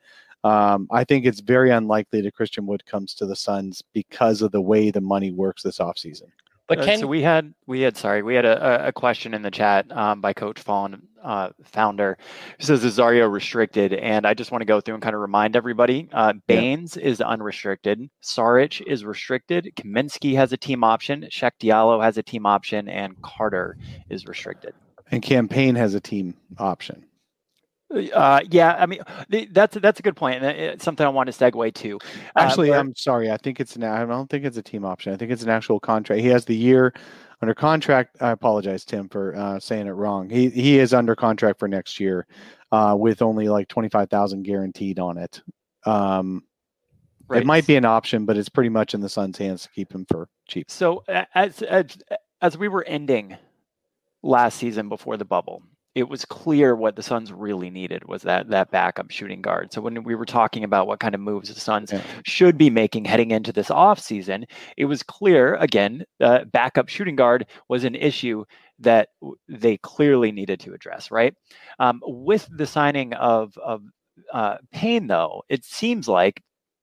I think it's very unlikely that Christian Wood comes to the Suns because of the way the money works this offseason. But so we had a question in the chat by Coach Fawn, founder, who says, is Zario restricted? And I just want to go through and kind of remind everybody, Baines is unrestricted, Saric is restricted, Kaminsky has a team option, Sheck Diallo has a team option, and Carter is restricted. And Campaign has a team option. I mean, that's a good point, and it's something I want to segue to. Actually, I'm sorry. I don't think it's a team option. I think it's an actual contract. He has the year under contract. I apologize, Tim, for saying it wrong. He is under contract for next year, with only like $25,000 guaranteed on it. Right. It might be an option, but it's pretty much in the Suns' hands to keep him for cheap. So as we were ending last season before the bubble, it was clear what the Suns really needed was that backup shooting guard. So when we were talking about what kind of moves the Suns should be making heading into this offseason, it was clear, again, backup shooting guard was an issue that they clearly needed to address, right? With the signing of Payne, though, it seems like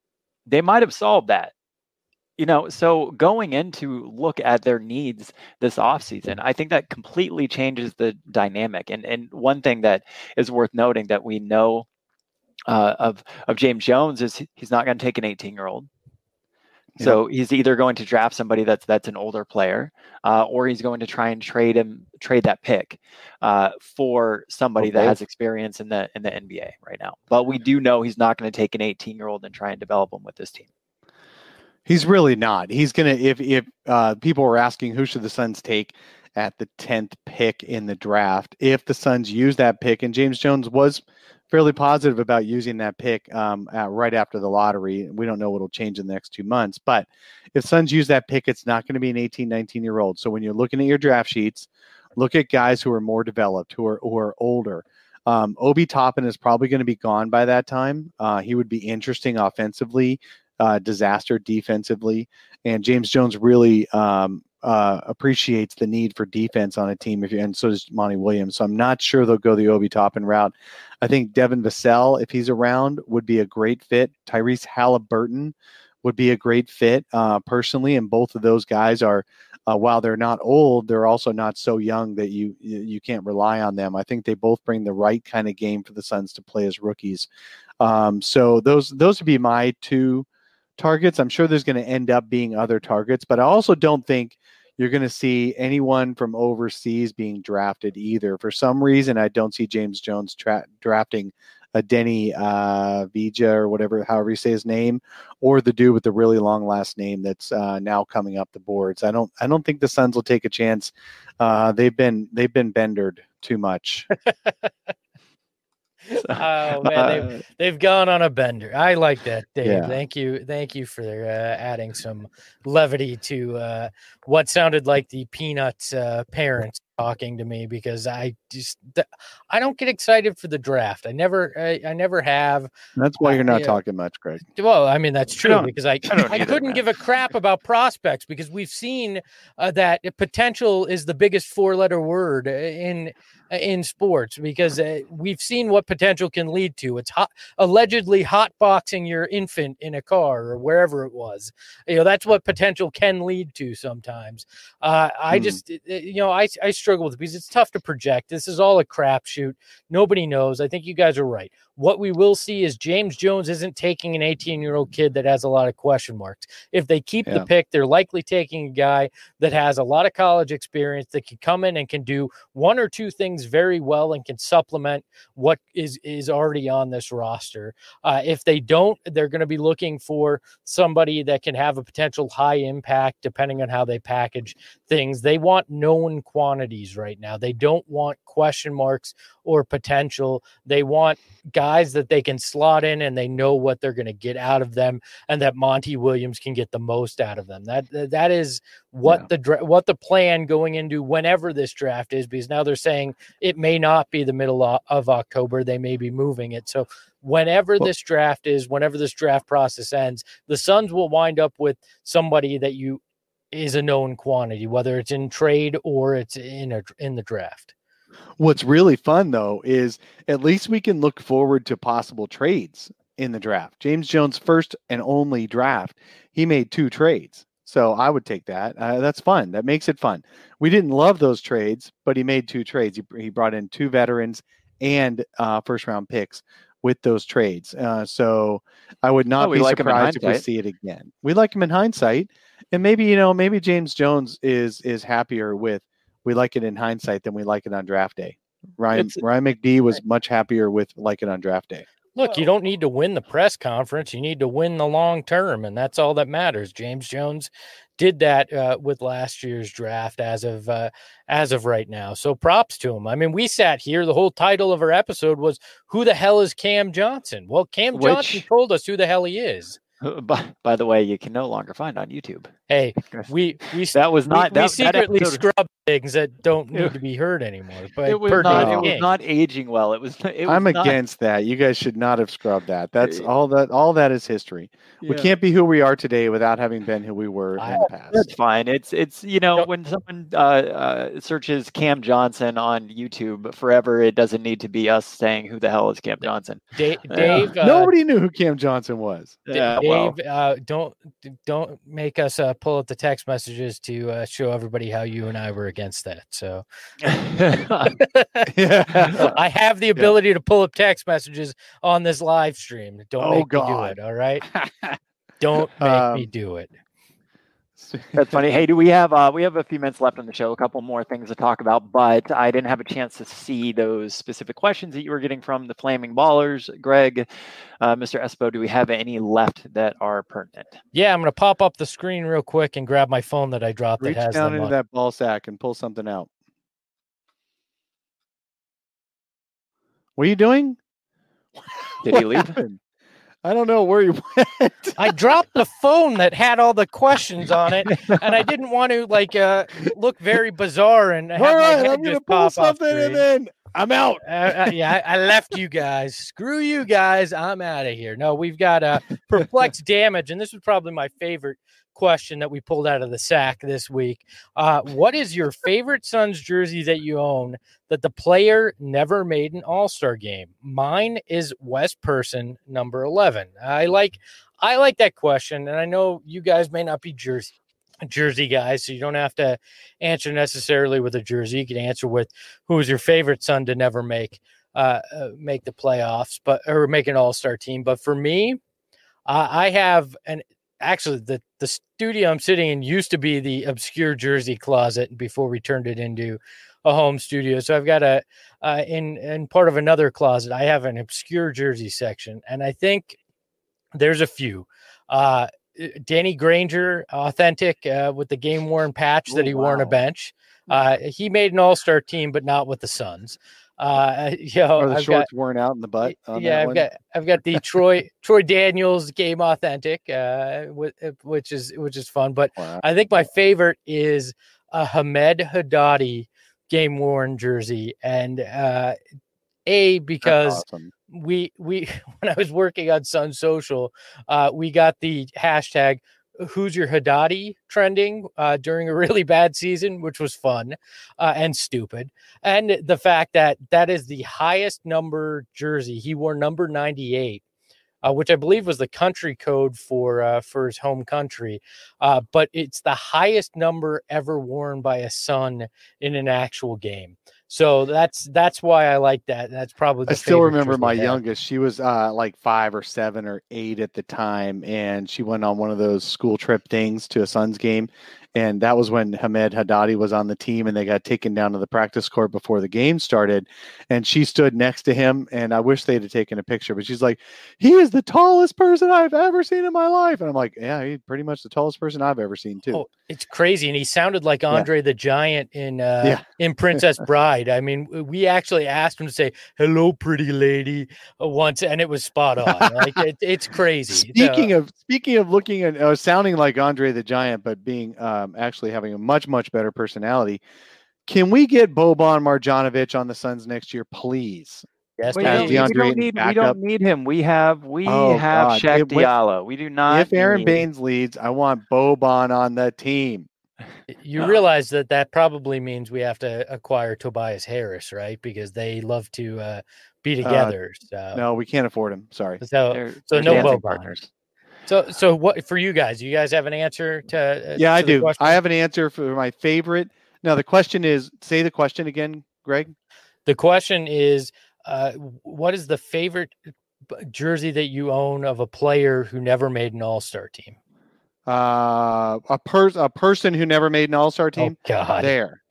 they might have solved that. So going in to look at their needs this offseason, I think that completely changes the dynamic. And one thing that is worth noting that we know of James Jones is he's not going to take an 18-year-old. So he's either going to draft somebody that's an older player, or he's going to try and trade that pick for somebody that has experience in the NBA right now. But we do know he's not going to take an 18-year-old and try and develop him with this team. He's really not. He's going to, if people were asking who should the Suns take at the 10th pick in the draft, if the Suns use that pick, and James Jones was fairly positive about using that pick right after the lottery. We don't know what will change in the next 2 months, but if Suns use that pick, it's not going to be an 18, 19-year-old. So when you're looking at your draft sheets, look at guys who are more developed, who are older. Obi Toppin is probably going to be gone by that time. He would be interesting offensively, disaster defensively, and James Jones really appreciates the need for defense on a team. And so does Monty Williams. So I'm not sure they'll go the Obi Toppin route. I think Devin Vassell, if he's around, would be a great fit. Tyrese Halliburton would be a great fit personally, and both of those guys are, while they're not old, they're also not so young that you can't rely on them. I think they both bring the right kind of game for the Suns to play as rookies. So those would be my two targets. I'm sure there's going to end up being other targets, but I also don't think you're going to see anyone from overseas being drafted either. For some reason, I don't see James Jones drafting a Denny Vija or however you say his name, or the dude with the really long last name that's now coming up the boards. I don't think the Suns will take a chance. They've been bendered too much. Oh man, they've gone on a bender. I like that, Dave. Yeah. Thank you for adding some levity to what sounded like the Peanuts parents talking to me, because I don't get excited for the draft. I never have. That's why you're not talking much, Greg. Well, I mean, that's true, because I couldn't give a crap about prospects, because we've seen that potential is the biggest four-letter word in sports, because we've seen what potential can lead to. It's allegedly hotboxing your infant in a car or wherever it was. That's what potential can lead to sometimes. I struggle with it because it's tough to project. This is all a crapshoot. Nobody knows. I think you guys are right. What we will see is James Jones isn't taking an 18-year-old kid that has a lot of question marks. If they keep the pick, they're likely taking a guy that has a lot of college experience, that can come in and can do one or two things very well and can supplement what is already on this roster. If they don't, they're going to be looking for somebody that can have a potential high impact depending on how they package things. They want known quantities right now. They don't want question marks or potential. They want guys that they can slot in and they know what they're going to get out of them, and that Monty Williams can get the most out of them. That is what the plan going into whenever this draft is, because now they're saying it may not be the middle of October. They may be moving it. So whenever this draft process ends, the Suns will wind up with somebody that is a known quantity, whether it's in trade or it's in the draft. What's really fun, though, is at least we can look forward to possible trades in the draft. James Jones' first and only draft, he made 2 trades. So I would take that. That's fun. That makes it fun. We didn't love those trades, but he made 2 trades. He brought in 2 veterans and first-round picks with those trades. So I would not be surprised if we see it again. We like him in hindsight. And maybe James Jones is happier with we like it in hindsight than we like it on draft day. Ryan McD was much happier with like it on draft day. Look, you don't need to win the press conference. You need to win the long term, and that's all that matters. James Jones did that with last year's draft as of right now. So props to him. I mean, we sat here. The whole title of our episode was "Who the hell is Cam Johnson?" Well, Cam Johnson told us who the hell he is. By the way, you can no longer find on YouTube. Hey, we that was not we secretly scrub things that don't need to be heard anymore. But it was not aging well. I'm against that. You guys should not have scrubbed that. That's all that is history. Yeah. We can't be who we are today without having been who we were in the past. That's fine. It's when someone searches Cam Johnson on YouTube forever, it doesn't need to be us saying who the hell is Cam Johnson. Dave, nobody knew who Cam Johnson was. Dave, don't make us pull up the text messages to show everybody how you and I were against that. So I have the ability to pull up text messages on this live stream. Don't make me do it. All right. Don't make me do it. That's funny. Hey, do we have a few minutes left on the show? A couple more things to talk about, but I didn't have a chance to see those specific questions that you were getting from the Flaming Ballers. Greg, Mr. Espo, do we have any left that are pertinent? Yeah, I'm going to pop up the screen real quick and grab my phone that I dropped. Reach down into that ball sack and pull something out. What are you doing? Did he leave? I don't know where you went. I dropped the phone that had all the questions on it, and I didn't want to look very bizarre and have my head I'm just pull pop something off and then I'm out. I left you guys. Screw you guys. I'm out of here. No, we've got perplexed damage, and this was probably my favorite question that we pulled out of the sack this week. What is your favorite Suns jersey that you own that the player never made an All-Star game? Mine is Wes Person, number 11. I like that question, and I know you guys may not be jersey guys, so you don't have to answer necessarily with a jersey. You can answer with who is your favorite Sun to never make the playoffs, or make an All-Star team. But for me, I have actually the studio I'm sitting in used to be the obscure jersey closet before we turned it into a home studio. So I've got in part of another closet, I have an obscure jersey section, and I think there's a few. Danny Granger, authentic, with the game worn patch that he wore on a bench. He made an All-Star team, but not with the Suns. Are the shorts worn out in the butt? I've got the Troy Daniels game authentic, which is fun. But I think my favorite is a Hamed Haddadi game worn jersey, and because we when I was working on Sun Social, we got the hashtag "Who's Your Haddadi" trending during a really bad season, which was fun and stupid. And the fact that is the highest number jersey. He wore number 98, which I believe was the country code for his home country. But it's the highest number ever worn by a Sun in an actual game. So that's why I like that. That's probably I still remember my youngest. She was like 5 or 7 or 8 at the time, and she went on one of those school trip things to a Suns game. And that was when Hamed Haddadi was on the team, and they got taken down to the practice court before the game started. And she stood next to him, and I wish they'd have taken a picture, but she's like, "He is the tallest person I've ever seen in my life." And I'm like, "Yeah, he's pretty much the tallest person I've ever seen too." Oh, it's crazy. And he sounded like Andre the Giant in Princess Bride. I mean, we actually asked him to say, "Hello, pretty lady," once, and it was spot on. Like it's crazy. Speaking of looking at sounding like Andre the Giant, but being actually having a much better personality, can we get Boban Marjanovic on the Suns next year, please? Yes, we don't need him. We have Shaq Diallo. We do not. If Aaron Baines leads, I want Boban on the team. You realize that probably means we have to acquire Tobias Harris, right? Because they love to be together. No, we can't afford him. Sorry. So no Boban partners. So what for you guys? Do you guys have an answer to? Yeah, I do. I have an answer for my favorite. Now the question is, say the question again, Greg. The question is, what is the favorite jersey that you own of a player who never made an All-Star team? A person who never made an All-Star team. Oh, God. There.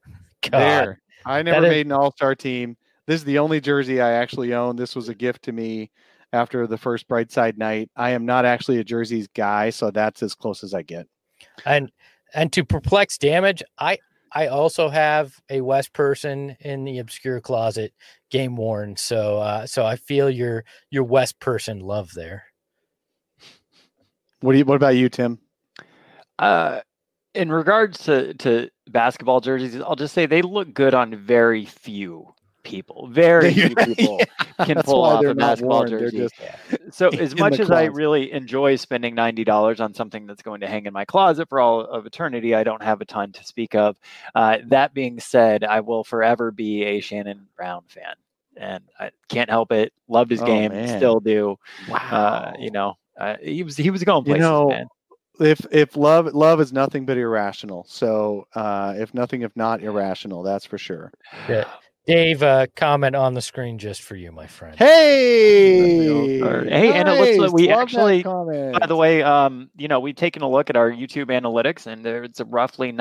I never made an All-Star team. This is the only jersey I actually own. This was a gift to me after the first Brightside night. I am not actually a jerseys guy, so that's as close as I get. And to perplex damage, I also have a Wes Person in the obscure closet, game worn. So I feel your Wes Person love there. What about you, Tim? In regards to basketball jerseys, I'll just say they look good on very few people. Very few people can pull off a basketball jersey. So as much as I really enjoy spending $90 on something that's going to hang in my closet for all of eternity, I don't have a ton to speak of. That being said, I will forever be a Shannon Brown fan. And I can't help it. Loved his game, still do. Wow. He was going places, man. If love is nothing but irrational. So if not irrational, that's for sure. Yeah. Dave, comment on the screen just for you, my friend. Hey, and it looks like we actually, by the way, we've taken a look at our YouTube analytics, and it's a roughly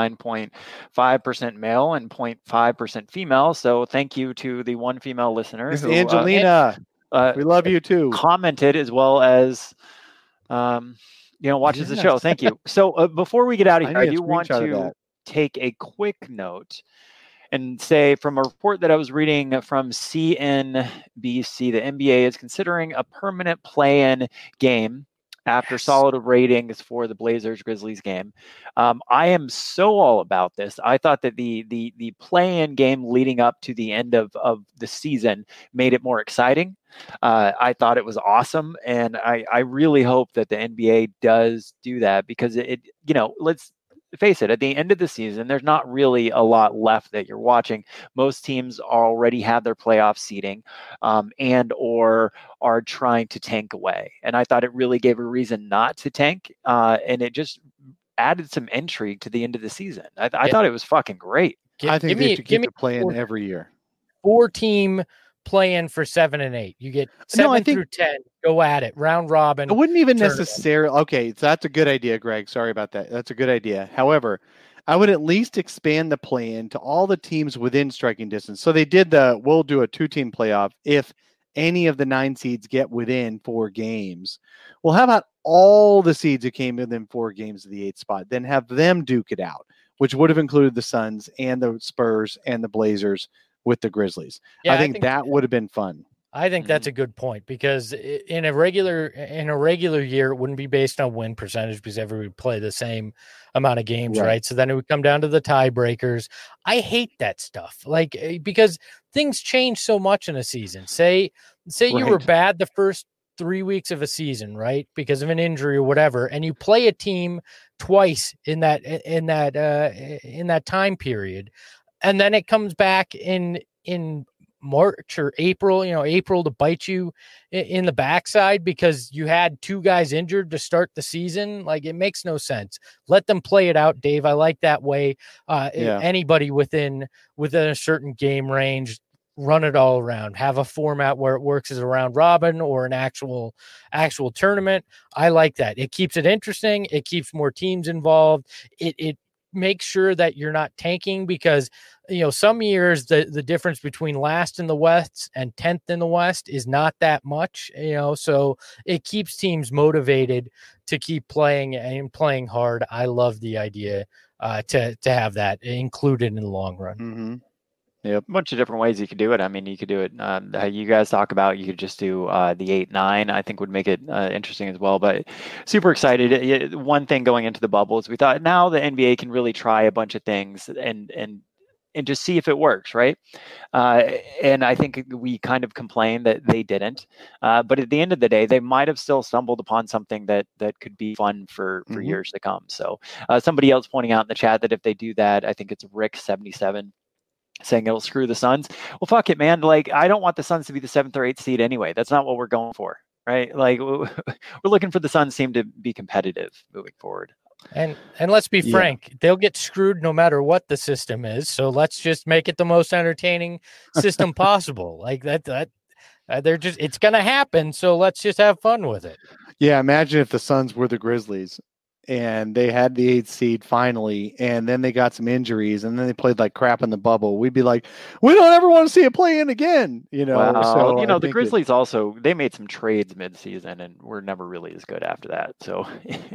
99.5% male and 0.5% female. So thank you to the one female listener, Angelina. We love you too. Commented as well as, watches the show. Thank you. So before we get out of here, I do want to take a quick note and say, from a report that I was reading from CNBC, the NBA is considering a permanent play-in game after solid ratings for the Blazers-Grizzlies game. I am so all about this. I thought that the play-in game leading up to the end of the season made it more exciting. I thought it was awesome, and I really hope that the NBA does do that, because let's face it, at the end of the season, there's not really a lot left that you're watching. Most teams already have their playoff seeding and or are trying to tank away. And I thought it really gave a reason not to tank, and it just added some intrigue to the end of the season. I thought it was fucking great. I think they should keep the play-in every year. 4-team play-in for 7 and 8. You get 7 through 10. Go at it. Round robin. I wouldn't even necessarily. Okay, so that's a good idea, Greg. Sorry about that. That's a good idea. However, I would at least expand the play-in to all the teams within striking distance. So they did we'll do a 2-team playoff if any of the 9 seeds get within 4 games. Well, how about all the seeds who came within 4 games of the 8th spot? Then have them duke it out, which would have included the Suns and the Spurs and the Blazers with the Grizzlies. I think that would have been fun. I think that's a good point, because in a regular year, it wouldn't be based on win percentage, because everybody would play the same amount of games, right? So then it would come down to the tiebreakers. I hate that stuff, because things change so much in a season. Say you were bad the first 3 weeks of a season, right, because of an injury or whatever, and you play a team twice in that time period, and then it comes back in March or April, April to bite you in the backside because you had 2 guys injured to start the season. It makes no sense. Let them play it out, Dave. I like that way. Anybody within a certain game range, run it all around. Have a format where it works as a round robin or an actual tournament. I like that. It keeps it interesting. It keeps more teams involved. It makes sure that you're not tanking, because some years the difference between last in the West and 10th in the West is not that much, so it keeps teams motivated to keep playing and playing hard. I love the idea to have that included in the long run. Mm-hmm. Yep. A bunch of different ways you could do it. I mean, you could do it. You guys talk about, you could just do the 8-9, I think would make it interesting as well. But super excited. One thing going into the bubble is we thought now the NBA can really try a bunch of things and just see if it works, right? And I think we kind of complained that they didn't. But at the end of the day, they might have still stumbled upon something that could be fun for years to come. So somebody else pointing out in the chat that if they do that, I think it's Rick77, saying it'll screw the Suns. Well, fuck it, man. I don't want the Suns to be the 7th or 8th seed anyway. That's not what we're going for, right? We're looking for the Suns team to be competitive moving forward. And let's be frank, they'll get screwed no matter what the system is. So let's just make it the most entertaining system possible. It's going to happen. So let's just have fun with it. Yeah. Imagine if the Suns were the Grizzlies and they had the 8th seed finally, and then they got some injuries, and then they played like crap in the bubble. We'd be like, we don't ever want to see it play in again. Well, the Grizzlies also, they made some trades mid-season and were never really as good after that. So,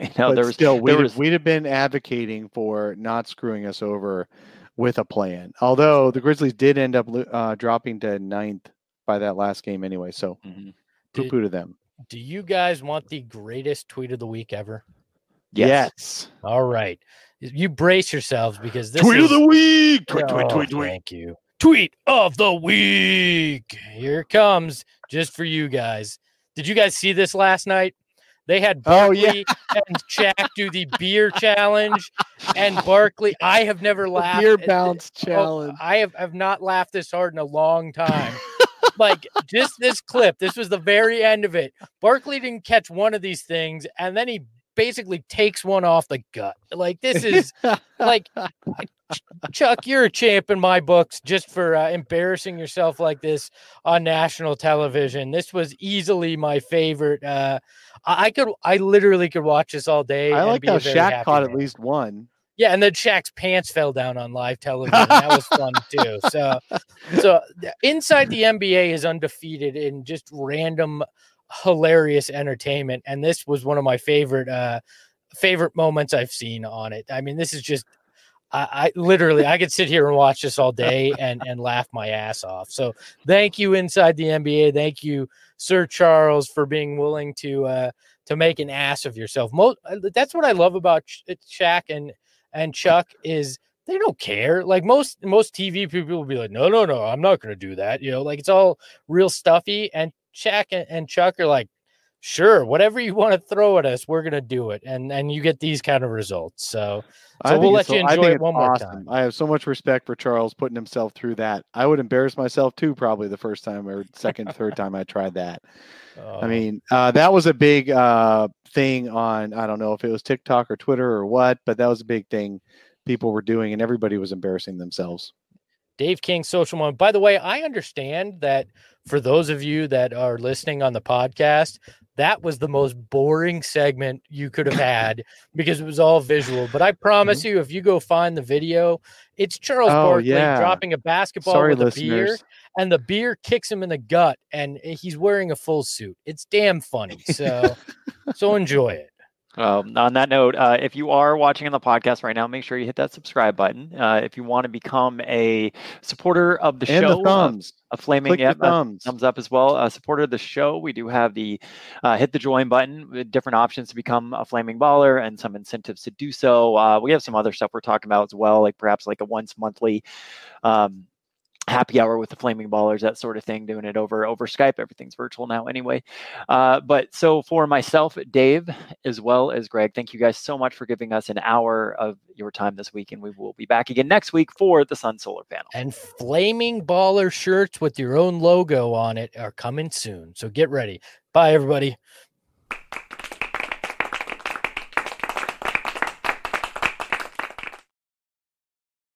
we'd have been advocating for not screwing us over with a play-in. Although the Grizzlies did end up dropping to 9th by that last game anyway. So poo-poo to them. Do you guys want the greatest tweet of the week ever? Yes. All right. You brace yourselves because this tweet of the week. Tweet. Thank you. Tweet of the week. Here it comes just for you guys. Did you guys see this last night? They had Barkley and Shaq do the beer challenge, and Barkley. I have never laughed. Beer bounce challenge. I have not laughed this hard in a long time. Like just this clip. This was the very end of it. Barkley didn't catch one of these things, and then he basically takes one off the gut. Like this is like Chuck, you're a champ in my books just for embarrassing yourself like this on national television. This was easily my favorite. I literally could watch this all day. I like how Shaq caught at least one. Yeah, and then Shaq's pants fell down on live television. That was fun too. So Inside the NBA is undefeated in just random hilarious entertainment, and this was one of my favorite moments I've seen on it. I mean, this is just I literally I could sit here and watch this all day and laugh my ass off. So thank you, Inside the NBA. Thank you, Sir Charles, for being willing to make an ass of yourself. That's what I love about Shaq and Chuck is they don't care. Like most TV people will be like, no, I'm not going to do that. You know, like it's all real stuffy. And Shaq and Chuck are like, sure, whatever you want to throw at us, we're going to do it. And you get these kind of results. So we'll let you enjoy it one more time. I have so much respect for Charles putting himself through that. I would embarrass myself too, probably the first time or second, third time I tried that. I mean, that was a big thing on, I don't know if it was TikTok or Twitter or what, but that was a big thing people were doing and everybody was embarrassing themselves. Dave King, Social Moment. By the way, I understand that for those of you that are listening on the podcast, that was the most boring segment you could have had because it was all visual. But I promise you, if you go find the video, it's Charles Barkley dropping a basketball with a beer, and the beer kicks him in the gut, and he's wearing a full suit. It's damn funny. So enjoy it. On that note, if you are watching on the podcast right now, make sure you hit that subscribe button. If you want to become a supporter of the show, a flaming thumbs up as well. Supporter of the show, we do have the hit the join button with different options to become a flaming baller and some incentives to do so. We have some other stuff we're talking about as well, like perhaps like a once monthly happy hour with the Flaming Ballers, that sort of thing, doing it over Skype. Everything's virtual now anyway. But so for myself, Dave, as well as Greg, thank you guys so much for giving us an hour of your time this week. And we will be back again next week for the Sun Solar Panel. And Flaming Baller shirts with your own logo on it are coming soon. So get ready. Bye, everybody.